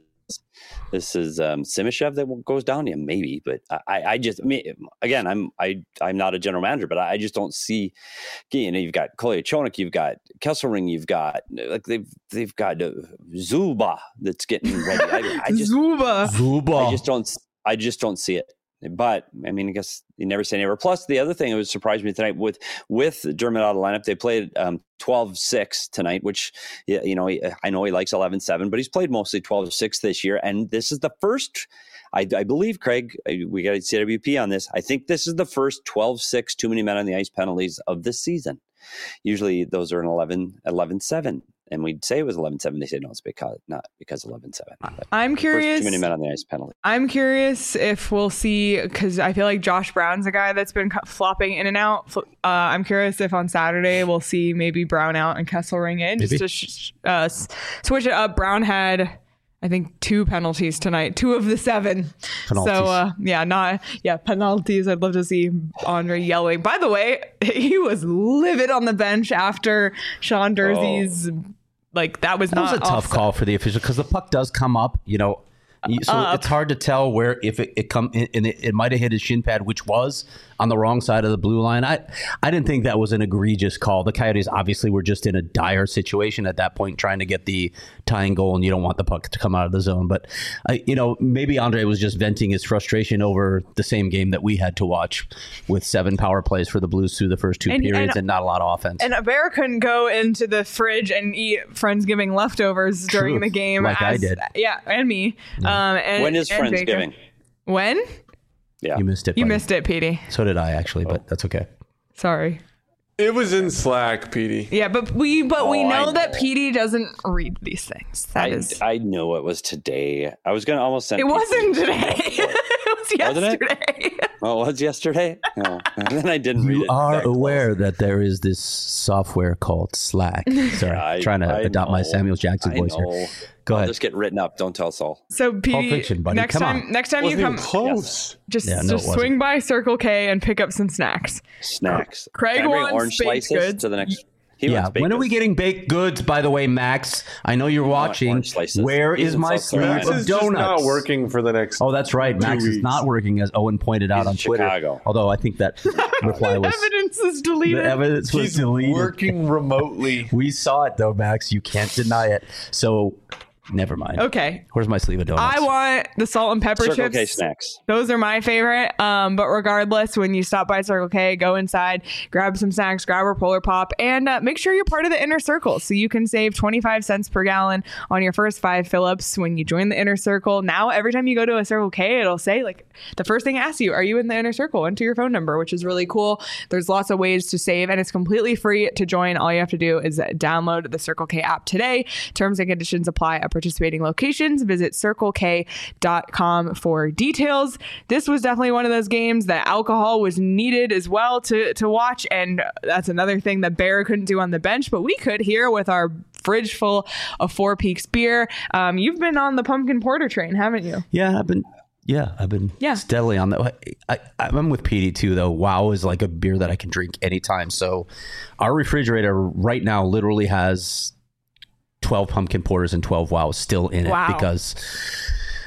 this is um, Simishev that goes down. Yeah, maybe, but I, I just I mean, again, I'm I I'm not a general manager, but I just don't see. You know, you've got Kolyachonok, you've got Kesselring, you've got like they've they've got uh, Zuba that's getting ready. I, I just Zuba. Zuba. I just don't. I just don't see it. But I mean, I guess you never say never. Plus, the other thing that was surprised me tonight with with Dermott out of the lineup, they played um, twelve six tonight, which you know I know he likes eleven seven, but he's played mostly twelve six this year, and this is the first. I, I believe, Craig, we got C W P on this. I think this is the first twelve six too many men on the ice penalties of this season. Usually, those are an eleven seven. And we'd say it was eleven seven. They said, no, it's because not because eleven seven. I'm curious. Too many men on the ice penalty. I'm curious if we'll see, because I feel like Josh Brown's a guy that's been cu- flopping in and out. Fl- Uh, I'm curious if on Saturday we'll see maybe Brown out and Kesselring in, Maybe. just to sh- uh, s- switch it up. Brown had, I think, two penalties tonight, two of the seven. Penalties. So uh, yeah, not yeah penalties. I'd love to see Andre yelling. By the way, he was livid on the bench after Sean Durzi's. Like that was That not was a tough offside. call for the official because the puck does come up, you know. So Up. it's hard to tell where if it, it come and it, it might have hit his shin pad, which was on the wrong side of the blue line. I I didn't think that was an egregious call. The Coyotes obviously were just in a dire situation at that point, trying to get the tying goal, and you don't want the puck to come out of the zone. But I, you know, maybe Andre was just venting his frustration over the same game that we had to watch, with seven power plays for the Blues through the first two And- periods and- and not a lot of offense. And a bear couldn't go into the fridge and eat Friendsgiving leftovers during True. the game. Like I did. Yeah, and me. Um, and, When is and Jacob. Friendsgiving? When? Yeah. you missed it. You buddy. missed it, Petey. So did I actually, but that's okay. Sorry. It was in Slack, Petey. Yeah, but we but we Oh, I know, that know. Petey doesn't read these things. That I, is. I know it was today. I was going to almost send It people- wasn't today. it was Wasn't it? yesterday. Oh, it was yesterday? No. And then I didn't read You it. are that close. aware that there is this software called Slack. Sorry, I- trying to I adopt my know. Samuel Jackson I voice know. here. Go I'll ahead. just get written up. Don't tell Saul. So Petey, Fiction, buddy. next Come time, on. next time you Wasn't even come, close. just Yeah, no, it just wasn't. swing by Circle K and pick up some snacks. Snacks. Craig Can I bring wants orange baked slices goods. to the next. He Yeah, wants baked when are we goods. getting baked goods, by the way, Max? I know you're watching. orange slices. Where He's is in my South sleeve Carolina. Max of is just donuts? not working for the next. Oh, that's right. Max is weeks. not working, as Owen pointed out He's on in Twitter. Chicago. Although I think that reply was Evidence is the deleted. evidence was He's deleted. working remotely. We saw it though, Max. You can't deny it. So never mind. Okay. Where's my sleeve of donuts? I want the salt and pepper Circle chips. K snacks. Those are my favorite. Um, but regardless, when you stop by Circle K, go inside, grab some snacks, grab a Polar Pop, and uh, make sure you're part of the Inner Circle so you can save twenty-five cents per gallon on your first five fill-ups when you join the Inner Circle. Now, every time you go to a Circle K, it'll say, like, the first thing it asks you, are you in the Inner Circle? Enter your phone number, which is really cool. There's lots of ways to save, and it's completely free to join. All you have to do is download the Circle K app today. Terms and conditions apply at participating locations. Visit circle k dot com for details. This was definitely one of those games that alcohol was needed as well to, to watch. And that's another thing that Bear couldn't do on the bench, but we could here with our fridge full of Four Peaks beer. Um, you've been on the pumpkin porter train, haven't you? Yeah, I've been. Yeah, I've been Yeah. steadily on that. I, I'm with Petey too, though. Wow is like a beer that I can drink anytime. So, our refrigerator right now literally has twelve pumpkin porters and twelve wows still in it Wow. because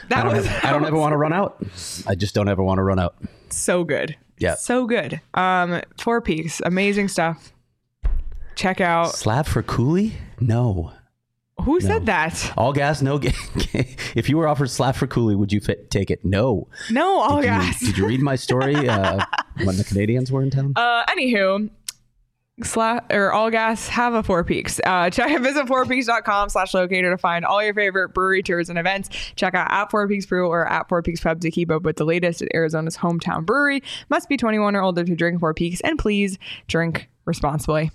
That I don't, was have, I don't ever want to run out. I just don't ever want to run out. so good. Yeah. So good. Um, Four Peaks, amazing stuff. Check out. Slab for Cooley? No. Who said that? All gas, no gas. If you were offered slap for Cooley, would you fit, take it? No. No, all Did you, gas. did you read my story uh, when the Canadians were in town? Uh, anywho, sla- or all gas have a Four Peaks. Uh, check visit four peaks dot com slash locator to find all your favorite brewery tours and events. Check out at Four Peaks Brew or at Four Peaks Pub to keep up with the latest at Arizona's hometown brewery. Must be twenty-one or older to drink Four Peaks, and please drink responsibly.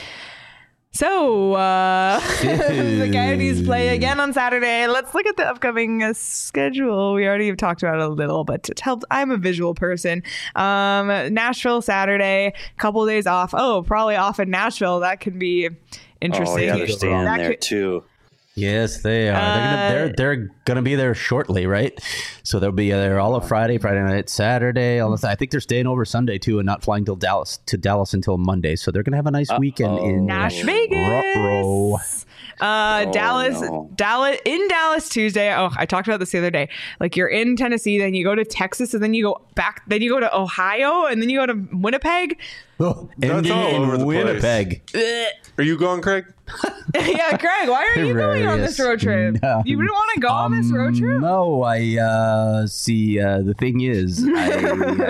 So, uh, the Coyotes play again on Saturday. Let's look at the upcoming uh, schedule. We already have talked about it a little, but it helps. I'm a visual person. Um, Nashville Saturday, couple days off. Oh, probably off in Nashville. That could be interesting. Oh, yeah, they're staying That there could- too. Yes, they are. they're gonna they're they're gonna be there shortly, right? So they'll be there all of Friday, Friday night, Saturday. All of I think they're staying over Sunday too, and not flying till Dallas to Dallas until Monday. So they're gonna have a nice weekend in Nash Vegas. Ruh-roh. Uh, Oh, Dallas, no. Dallas in Dallas Tuesday. Oh, I talked about this the other day. Like you're in Tennessee, then you go to Texas, and then you go back, then you go to Ohio, and then you go to Winnipeg. Oh, That's and all in over the place. Winnipeg. Are you going, Craig? Yeah, Craig, why are you going on this road trip? No. You didn't want to go on this road trip? No, I uh, see. Uh, the thing is, I,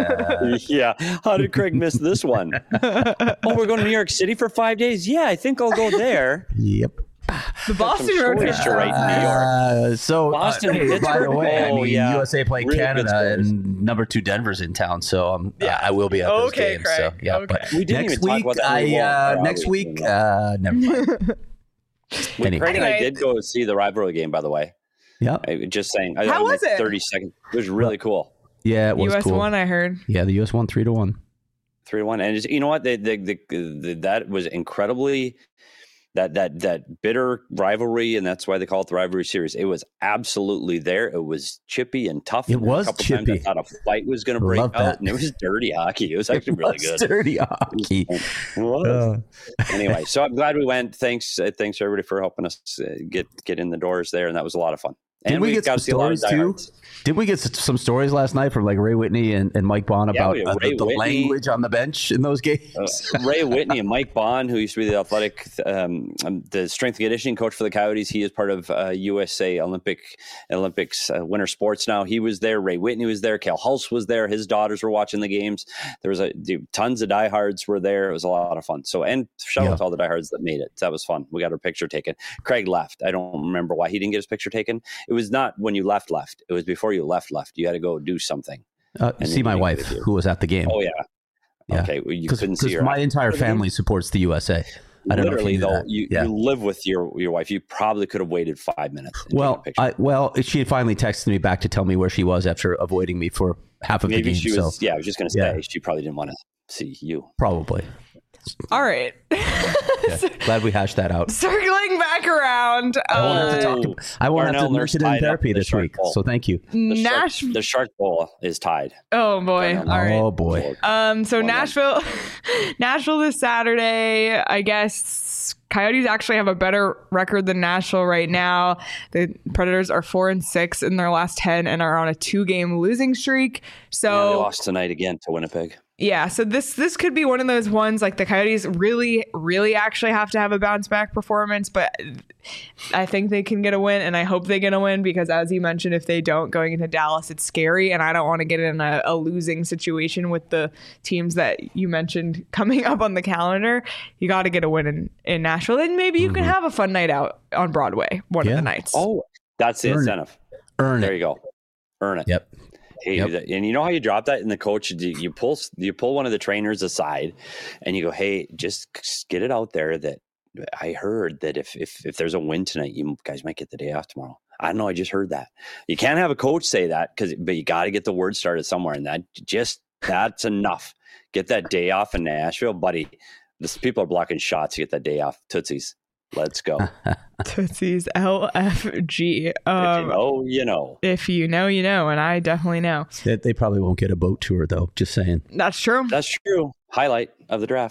uh, Yeah. How did Craig miss this one? Oh, we're going to New York City for five days? Yeah, I think I'll go there. yep. The Boston some road trip. choice to write in New York. Uh, so, Boston, uh, hey, by the Pittsburgh? way, I Oh, mean, yeah. U S A played Real good Canada, scores. and number two Denver's in town, so um, yeah, I will be at those Okay, games. Craig. So, yeah, Okay. but We didn't next even talk week, about that. I We won't. uh, Or next we week, won't. uh, never mind. We- Anyway. Craig and I Anyway. did go see the rivalry game, by the way. Yeah, I, just saying. I, How like was it? thirty seconds. It was really cool. yeah, it was U S cool. won, I heard. Yeah, the U S won three to one. Three to one, and it's, you know what? The, the, the, the, that was incredibly that that that bitter rivalry, and that's why they call it the rivalry series. It was absolutely there. It was chippy and tough. It And there were was a couple chippy. times I thought a fight was going to break Love out, that. and it was dirty hockey. It was actually really It good. was dirty hockey. It was. Anyway, so I'm glad we went. Thanks, uh, thanks everybody for helping us uh, get get in the doors there, and that was a lot of fun. Didn't And we get got some to see a lot of stories too? diehards. Didn't we get s- some stories last night from like Ray Whitney and, and Mike Bond Yeah, about we had uh, Ray the, the Whitney. language on the bench in those games? Uh, Ray Whitney and Mike Bond, who used to be the athletic, um, um, the strength and conditioning coach for the Coyotes. He is part of uh, U S A Olympic Olympics uh, winter sports now. He was there. Ray Whitney was there. Cal Hulse was there. His daughters were watching the games. There was a dude, tons of diehards were there. It was a lot of fun. So, and shout Yeah. out to all the diehards that made it. That was fun. We got our picture taken. Craig left. I don't remember why he didn't get his picture taken. It was not when you left, left. It was before you left, left. You had to go do something. Uh, And see then my you wife, get to- who was at the game. Oh yeah. Yeah. Okay. Well, you Because couldn't see her. my entire after the game? family supports the U S A. I don't Literally, know if you knew though, that. you, yeah. you live with your your wife. You probably could have waited five minutes. and taken a Well, picture. I well, she had finally texted me back to tell me where she was after avoiding me for half of maybe the game. she was. so Yeah, I was just going to say Yeah. she probably didn't want to see you. probably. All right. Yeah. Glad we hashed that out. Circling back around. I won't have to Uh, talk. ab- I won't have Darnell to Nurse mention it in tied up therapy the this Shark week. Bowl. So thank you. The shark, Nash. the Shark Bowl is tied. Oh boy. Darnell. All right. Oh boy. Um, so Well done. Nashville, Nashville this Saturday. I guess Coyotes actually have a better record than Nashville right now. The Predators are four and six in their last ten and are on a two-game losing streak. Yeah, they So lost tonight again to Winnipeg. yeah, so this this could be one of those ones like the Coyotes really, really actually have to have a bounce back performance, but I think they can get a win, and I hope they get a win because, as you mentioned, if they don't going into Dallas, it's scary, and I don't want to get in a, a losing situation with the teams that you mentioned coming up on the calendar. You got to get a win in, in Nashville, and maybe you can have a fun night out on Broadway one Yeah. of the nights. Oh, that's the Earn it. incentive. Earn There it. you go. Earn it. Yep. Hey, Yep. that- and you know how you drop that, and the coach, you you pull you pull one of the trainers aside, and you go, "Hey, just get it out there that I heard that if if if there's a win tonight, you guys might get the day off tomorrow." I don't know. I just heard that. You can't have a coach say that because, but you got to get the word started somewhere, and that just that's enough. Get that day off in Nashville, buddy. This people are blocking shots to get that day off. Tootsies, let's go. Tootsie's L F G. If Um, you know, you know. if you know, you know, and I definitely know. They, they probably won't get a boat tour though. Just saying. That's true. That's true. Highlight of the draft.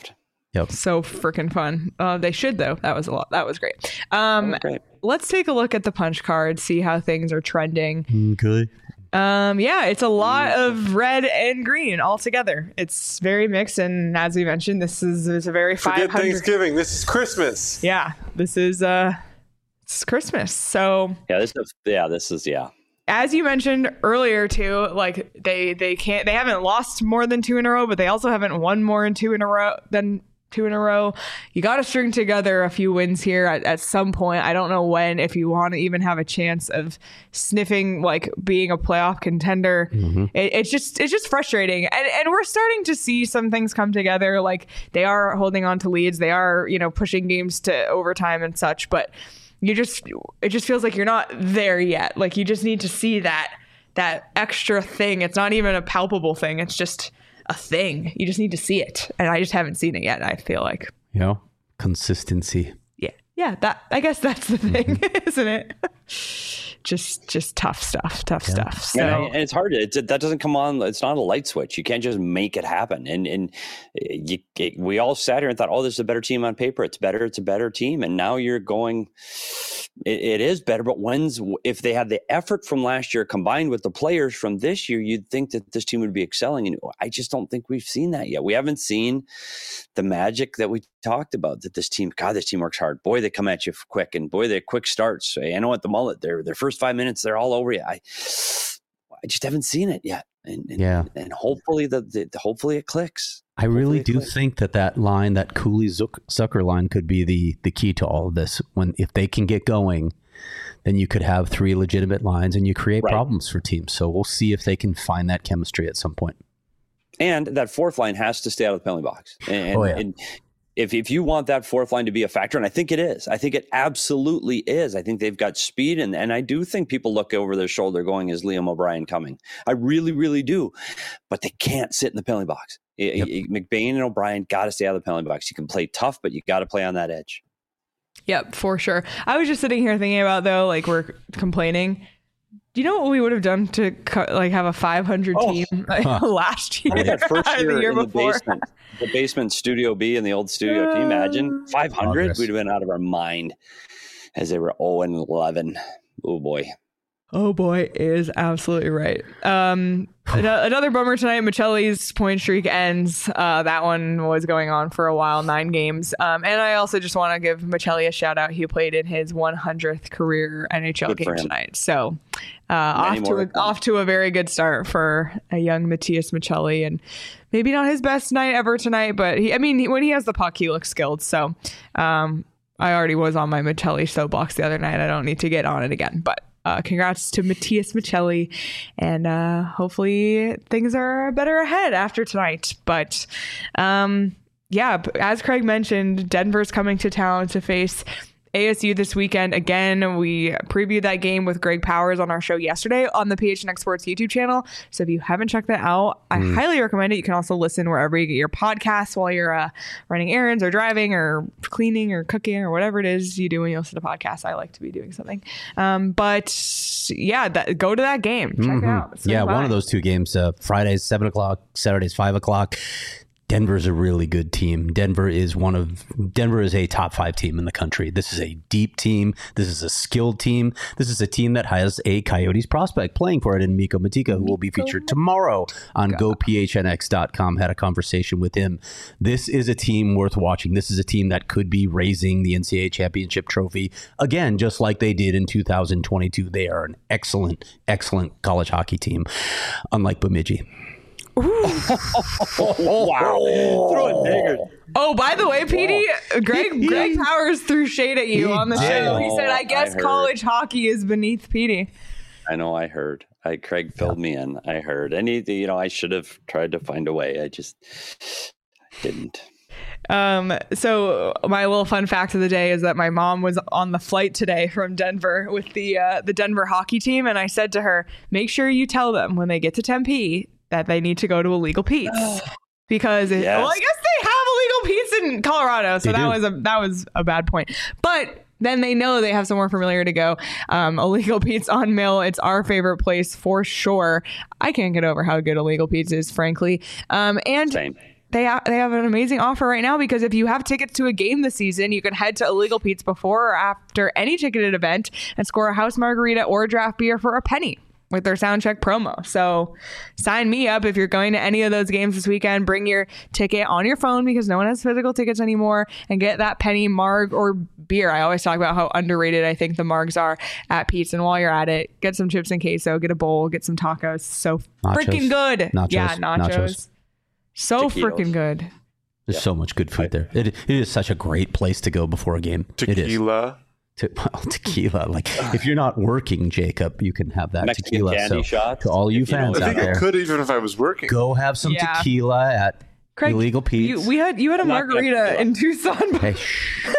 Yep. So freaking fun. Uh, they should though. That was a lot. That was great. Um, Oh, great. Let's take a look at the punch card, see how things are trending. Okay. Um, yeah, it's a lot of red and green all together. It's very mixed, and as we mentioned, this is, is a very Forget five hundred. Thanksgiving. This is Christmas. Yeah, this is uh, it's Christmas. So Yeah, this is yeah, this is yeah. as you mentioned earlier too, like they they can't they haven't lost more than two in a row, but they also haven't won more in two in a row than two in a row. You got to string together a few wins here at, at some point. I don't know when, if you want to even have a chance of sniffing like being a playoff contender. Mm-hmm. It, it's just it's just frustrating, and and we're starting to see some things come together. Like they are holding on to leads, they are you know pushing games to overtime and such, but you just it just feels like you're not there yet. Like you just need to see that that extra thing. It's not even a palpable thing. It's just a thing. You just need to see it, and I just haven't seen it yet. I feel like, You know, consistency. yeah, yeah. That I guess that's the thing, isn't it? just, just tough stuff. Tough stuff. So Yeah, and it's hard. It's, that doesn't come on. It's not a light switch. You can't just make it happen. And and you, it, we all sat here and thought, oh, this is a better team on paper. It's better. It's a better team. And now you're going. It, it is better. But when's if they had the effort from last year combined with the players from this year, you'd think that this team would be excelling. And I just don't think we've seen that yet. We haven't seen the magic that we talked about. That this team, God, this team works hard. Boy, they come at you quick, and boy, they're quick starts. I know at the mullet, their their first five minutes, they're all over you. I, I just haven't seen it yet. And, and Yeah. and hopefully the, the hopefully it clicks. I really Hopefully it do clicks. think that that line, that Cooley Zuck- Zucker line, could be the the key to all of this. When if they can get going, then you could have three legitimate lines, and you create Right. problems for teams. So we'll see if they can find that chemistry at some point. And that fourth line has to stay out of the penalty box. And, Oh, yeah. and if if you want that fourth line to be a factor, and I think it is, I think it absolutely is. I think they've got speed, and, and I do think people look over their shoulder going, is Liam O'Brien coming? I really, really do. But they can't sit in the penalty box. Yep. McBain and O'Brien got to stay out of the penalty box. You can play tough, but you got to play on that edge. Yep, for sure. I was just sitting here thinking about though, like we're complaining. Do you know what we would have done to co- like have a five hundred Oh. team like, last year? I mean, that first or year, the year in the before. basement, the basement Studio B in the old studio. Can you imagine? five hundred? Progress. We'd have been out of our mind as they were oh and eleven. Oh, boy. Oh boy, is absolutely right. Um, an- another bummer tonight. Michelli's point streak ends. Uh, that one was going on for a while, nine games. Um, and I also just want to give Michelli a shout out. He played in his one hundredth career N H L Good for game him. tonight. So uh, off Many to more a, to come. off to a very good start for a young Matthias Michelli, and maybe not his best night ever tonight, but he, I mean, he, when he has the puck, he looks skilled. So um, I already was on my Michelli soapbox the other night. I don't need to get on it again, but. Uh, congrats to Matthias Michelli, and uh, hopefully things are better ahead after tonight. But um, yeah, as Craig mentioned, Denver's coming to town to face A S U this weekend. Again, we previewed that game with Greg Powers on our show yesterday on the P H N X Sports YouTube channel. So if you haven't checked that out, I highly recommend it. You can also listen wherever you get your podcasts while you're uh, running errands or driving or cleaning or cooking or whatever it is you do when you listen to podcasts. I like to be doing something. Um, but yeah, that, go to that game. Check it out. Swing Yeah, by. one of those two games. Uh, Friday's seven o'clock, Saturday's five o'clock. Denver's a really good team. Denver is one of Denver is a top five team in the country. This is a deep team. This is a skilled team. This is a team that has a Coyotes prospect playing for it in Miko Matika, who will be featured tomorrow on go p h n x dot com. Had a conversation with him. This is a team worth watching. This is a team that could be raising the N C double A championship trophy again, just like they did in two thousand twenty-two. They are an excellent, excellent college hockey team, unlike Bemidji. Wow. Throw a dagger. Oh, by the way, P D, Greg Greg Powers threw shade at you He on the did. show. He said, "I I guess heard. college hockey is beneath P D." I know. I heard. I Craig filled me in. I heard. Any, you know, I should have tried to find a way. I just didn't. Um, so my little fun fact of the day is that my mom was on the flight today from Denver with the uh, the Denver hockey team, and I said to her, "Make sure you tell them when they get to Tempe that they need to go to Illegal Pete's." Because it, Yes. well, I guess they have Illegal Pete's in Colorado, so They that do. was a that was a bad point. But then they know they have somewhere familiar to go. Um, Illegal Pete's on Mill. It's our favorite place for sure. I can't get over how good Illegal Pete's is, frankly. Um, and Same. they ha- they have an amazing offer right now, because if you have tickets to a game this season, you can head to Illegal Pete's before or after any ticketed event and score a house margarita or draft beer for a penny with their Soundcheck promo. So sign me up if you're going to any of those games this weekend. Bring your ticket on your phone, because no one has physical tickets anymore, and get that penny marg or beer. I always talk about how underrated I think the margs are at Pete's. And while you're at it, get some chips and queso, get a bowl, get some tacos. So freaking good. Nachos. Yeah, nachos. Nachos. So Taquitos. freaking good. There's Yeah. so much good food there. It, it is such a great place to go before a game. It is. Tequila. Te- well, tequila. Like, if you're not working, Jacob, you can have that Mexican tequila. candy So shots, to all you if you know fans what I out think I there, could even if I was working. go have some Yeah. tequila at Craig, Illegal Pete's. You, we had you had a I'm not gonna margarita do it. in Tucson. Hey, shh.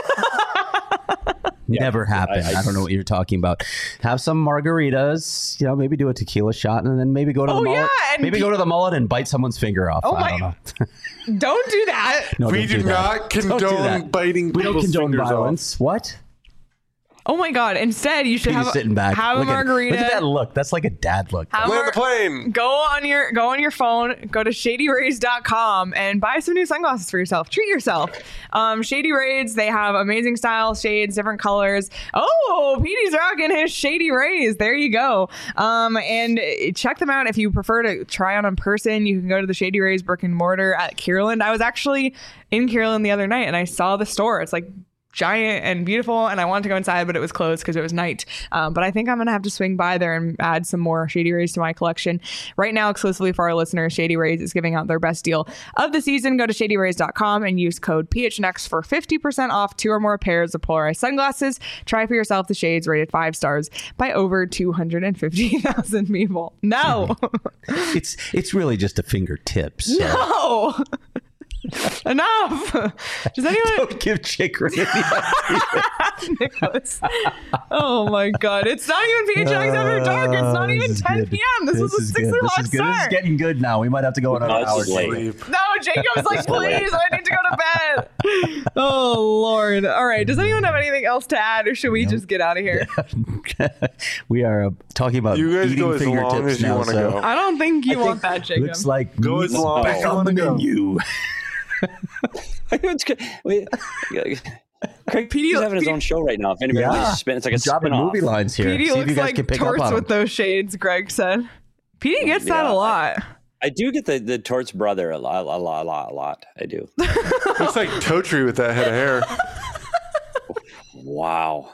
Never happened. I, I- I- don't know what you're talking about. Have some margaritas, you know, maybe do a tequila shot, and then maybe go to the Oh, mullet. yeah, and maybe pe- go to the mullet and bite someone's finger off. Oh, I my- don't know. Don't do that. No, we don't do that. not Don't do condone that. biting We don't people's condone fingers violence. What? Oh my God. Instead, you should He's have, sitting back. have a look at, margarita. Look at that look. That's like a dad look. Have Land a- the plane. Go on your go on your phone, go to shady rays dot com and buy some new sunglasses for yourself. Treat yourself. Um, Shady Rays, they have amazing styles, shades, different colors. Oh, Petey's rocking his Shady Rays. There you go. Um, and check them out if you prefer to try on in person. You can go to the Shady Rays brick and mortar at Kierland. I was actually in Kierland the other night and I saw the store. It's like giant and beautiful, and I wanted to go inside, but it was closed because it was night. Um, but I think I'm gonna have to swing by there and add some more Shady Rays to my collection. Right now, exclusively for our listeners, Shady Rays is giving out their best deal of the season. Go to shady rays dot com and use code P H N X for fifty percent off two or more pairs of polarized sunglasses. Try for yourself the shades rated five stars by over two hundred fifty thousand people. No, It's it's really just a fingertip. So. no. Enough. Does anyone Don't give Jake Ray any Nicholas. Oh my God. It's not even P H X After Dark. It's not Uh, even this is ten good. p.m. This, was a is six good. o'clock This is good. This is start. getting good now. We might have to go another No, this hour. is late. Sleep. No, Jacob's like, please, I need to go to bed. Oh, Lord. All right. Does anyone have anything else to add, or should we just get out of here? We are uh, talking about You guys eating go as long fingertips as you now. want to So go. I don't think you I want that, Jacob. looks like Go as meat's long back as you on wanna the go. menu. It's good. Wait, Craig P D Petey's having his own show right now. If anybody Yeah. wants to spin, it's like a Dropping spin-off. movie lines here. P D See if looks you guys like can pick up torts on with them. those shades, Greg said. P D gets that Yeah, a lot. I do get the the Torts brother a lot, a lot, a lot, a lot. I do. Looks like Totri with that head of hair. Wow.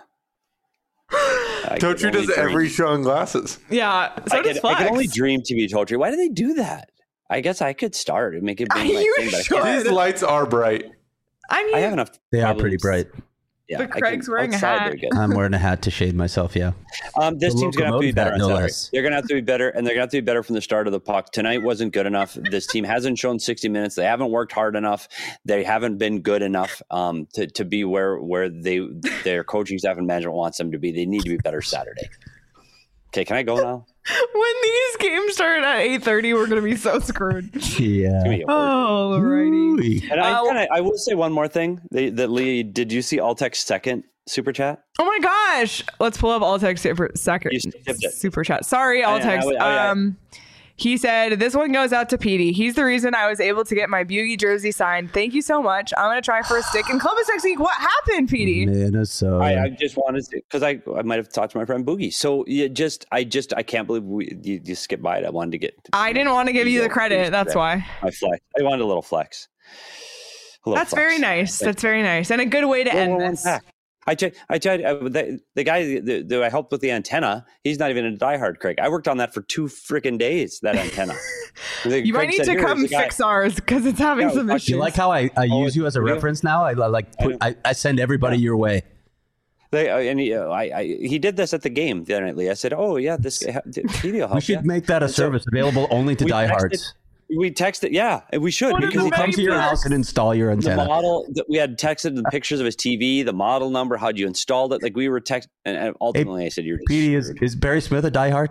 I can Totri only does every dream. show in glasses. Yeah. So I does can, Flex. I can only dream to be Totri. Why do they do that? I guess I could start and make it be Are my you thing, but I sure? can't. These lights are bright. I mean, I have enough. They are problems. pretty bright. Yeah, But I can- Craig's wearing a outside hat. they're good. I'm wearing a hat to shade myself. Yeah. Um, this The team's gonna have to be locomotive better hat, on no Saturday. less. They're gonna have to be better, and they're gonna have to be better from the start of the puck. Tonight wasn't good enough. This team hasn't shown sixty minutes. They haven't worked hard enough. They haven't been good enough um, to to be where where they their coaching staff and management wants them to be. They need to be better Saturday. Okay, can I go now? when these games start at eight thirty, we're going to be so screwed. Yeah. Give me a word. Oh, alrighty. Ooh. And I, Uh, kinda, I will say one more thing. They, that Lee, did you see Altec's second super chat? Oh my gosh. Let's pull up Altex super second You skipped it. super chat. Sorry, I- I- Altex. I- I- Um he said, this one goes out to Petey. He's the reason I was able to get my Bugey jersey signed. Thank you so much. I'm going to try for a stick in Columbus next week. What happened, Petey? Minnesota. I, I just wanted to, because I, I might have talked to my friend Boogie. So you just, I just, I can't believe we, you, you skipped by it. I wanted to get. I didn't want to give you the credit. That's why. My flex. I wanted a little flex. A little That's flex. very nice. That's very nice. And a good way to One- end one- one this. pack. I tried. I tried. Uh, the, the guy that that I helped with the antenna, he's not even a diehard Craig. I worked on that for two freaking days. That antenna. You might need to come fix ours because it's having Yeah, some fuck issues. You like how I, I Oh, use you as a yeah. reference now? I li- like put, I, I send everybody your way. They, uh, and he, uh, I, I, he did this at the game the other night. Lee. I said, "Oh yeah, this guy, Petey will help We should you." make that a And so service available only to we diehards. texted- We texted, yeah, and we should What are because the he We'll come many to your perks? house and install your the antenna. model that we had texted the pictures of his T V, the model number, how'd you installed it? Like we were text, and, and ultimately I said, "You're just Petey, is, screwed." is Barry Smith a diehard?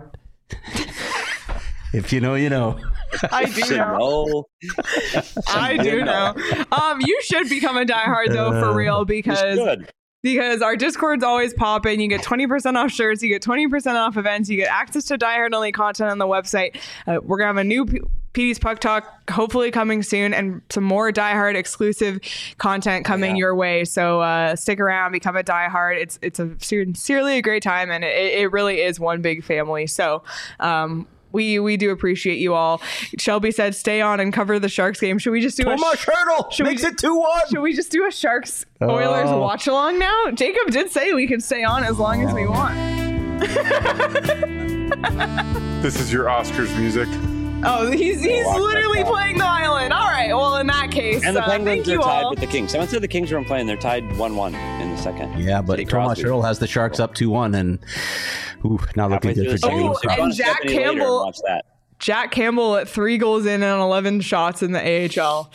If you know, you know. I do Said, know. "No." I do know. Um, you should become a diehard though, for real, You because should. because our Discord's always popping. You get twenty percent off shirts, you get twenty percent off events, you get access to diehard only content on the website. Uh, we're gonna have a new p- P D's Puck Talk hopefully coming soon, and some more Die Hard exclusive content coming yeah. your way. So uh, stick around, become a Die Hard. It's it's a sincerely a great time, and it, it really is one big family. So um, we we do appreciate you all. Shelby said, "Stay on and cover the Sharks game." Should we just do Tomas a Hertl should makes we, it two one. Should we just do a Sharks Oilers Oh. watch along now? Jacob did say we could stay on as long as we want. This is your Oscars music. Oh, he's he's Walk literally that playing the violin. All right. Well, in that case, And the uh, Penguins thank are you tied all. with the Kings. Someone said the Kings weren't playing. They're tied one one in the second. Yeah, but Sidney Tomas Crosby. Hertl has the Sharks up two one, and ooh, not looking Halfway good through for the second, James. Oh, so and go on Jack Stephanie later and Campbell- watch that. Jack Campbell at three goals in and eleven shots in the A H L.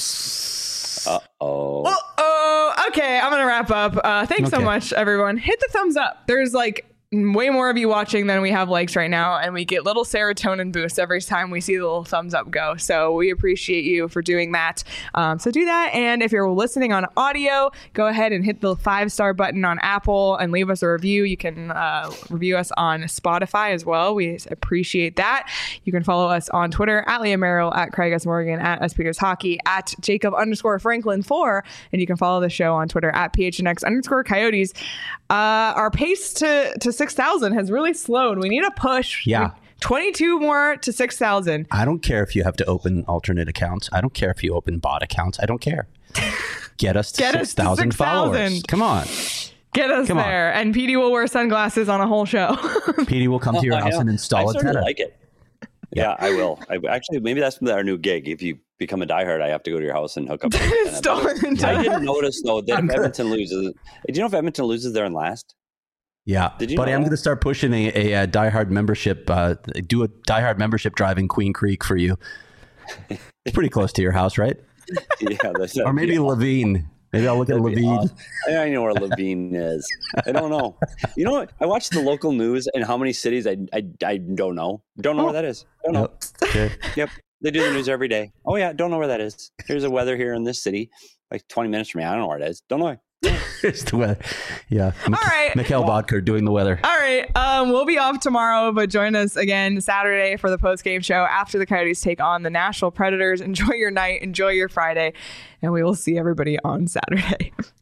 Oops. Uh oh. Oh, okay. I'm gonna wrap up. Uh, thanks so Okay. much, everyone. Hit the thumbs up. There's like way more of you watching than we have likes right now, and we get little serotonin boosts every time we see the little thumbs up go. So we appreciate you for doing that. Um, so do that, and if you're listening on audio, go ahead and hit the five star button on Apple and leave us a review. You can uh, review us on Spotify as well. We appreciate that. You can follow us on Twitter at Liam Merrill, at Craig S. Morgan, at S. Peters Hockey, at Jacob underscore Franklin four, and you can follow the show on Twitter at P H N X underscore Coyotes. Uh, our pace to to six thousand has really slowed. We need a push. Yeah. We- twenty-two more to six thousand. I don't care if you have to open alternate accounts. I don't care if you open bot accounts. I don't care. Get us to Get us six to thousand followers. six thousand. Come on. Get us Come on. there. And P D will wear sunglasses on a whole show. P D will come to your I house know. and I install a started to antenna. like it. Yeah, I will. I, actually, maybe that's our new gig. If you become a diehard, I have to go to your house and hook up. an antenna. Install an I antenna. didn't notice though that I'm if gonna- Edmonton loses, do you know if Edmonton loses, they're in last? Yeah, Did you buddy, know I'm that? going to start pushing a, a, uh diehard membership. Uh, do a diehard membership drive in Queen Creek for you. It's pretty close to your house, right? Yeah, that's Or maybe Levine. Maybe I'll look at That'd be Levine. awesome. I know where Levine is. I don't know. You know what? I watched the local news and how many cities I I, I don't know. Don't know where that is. Don't know. Yep. Okay. Yep. They do the news every day. Oh yeah, don't know where that is. Here's the weather here in this city, like twenty minutes from me. I don't know where it is. Don't know. It's the weather. Yeah. All right. Mikhail Bodker doing the weather. All right. Um, we'll be off tomorrow, but join us again Saturday for the post-game show after the Coyotes take on the Nashville Predators. Enjoy your night. Enjoy your Friday. And we will see everybody on Saturday.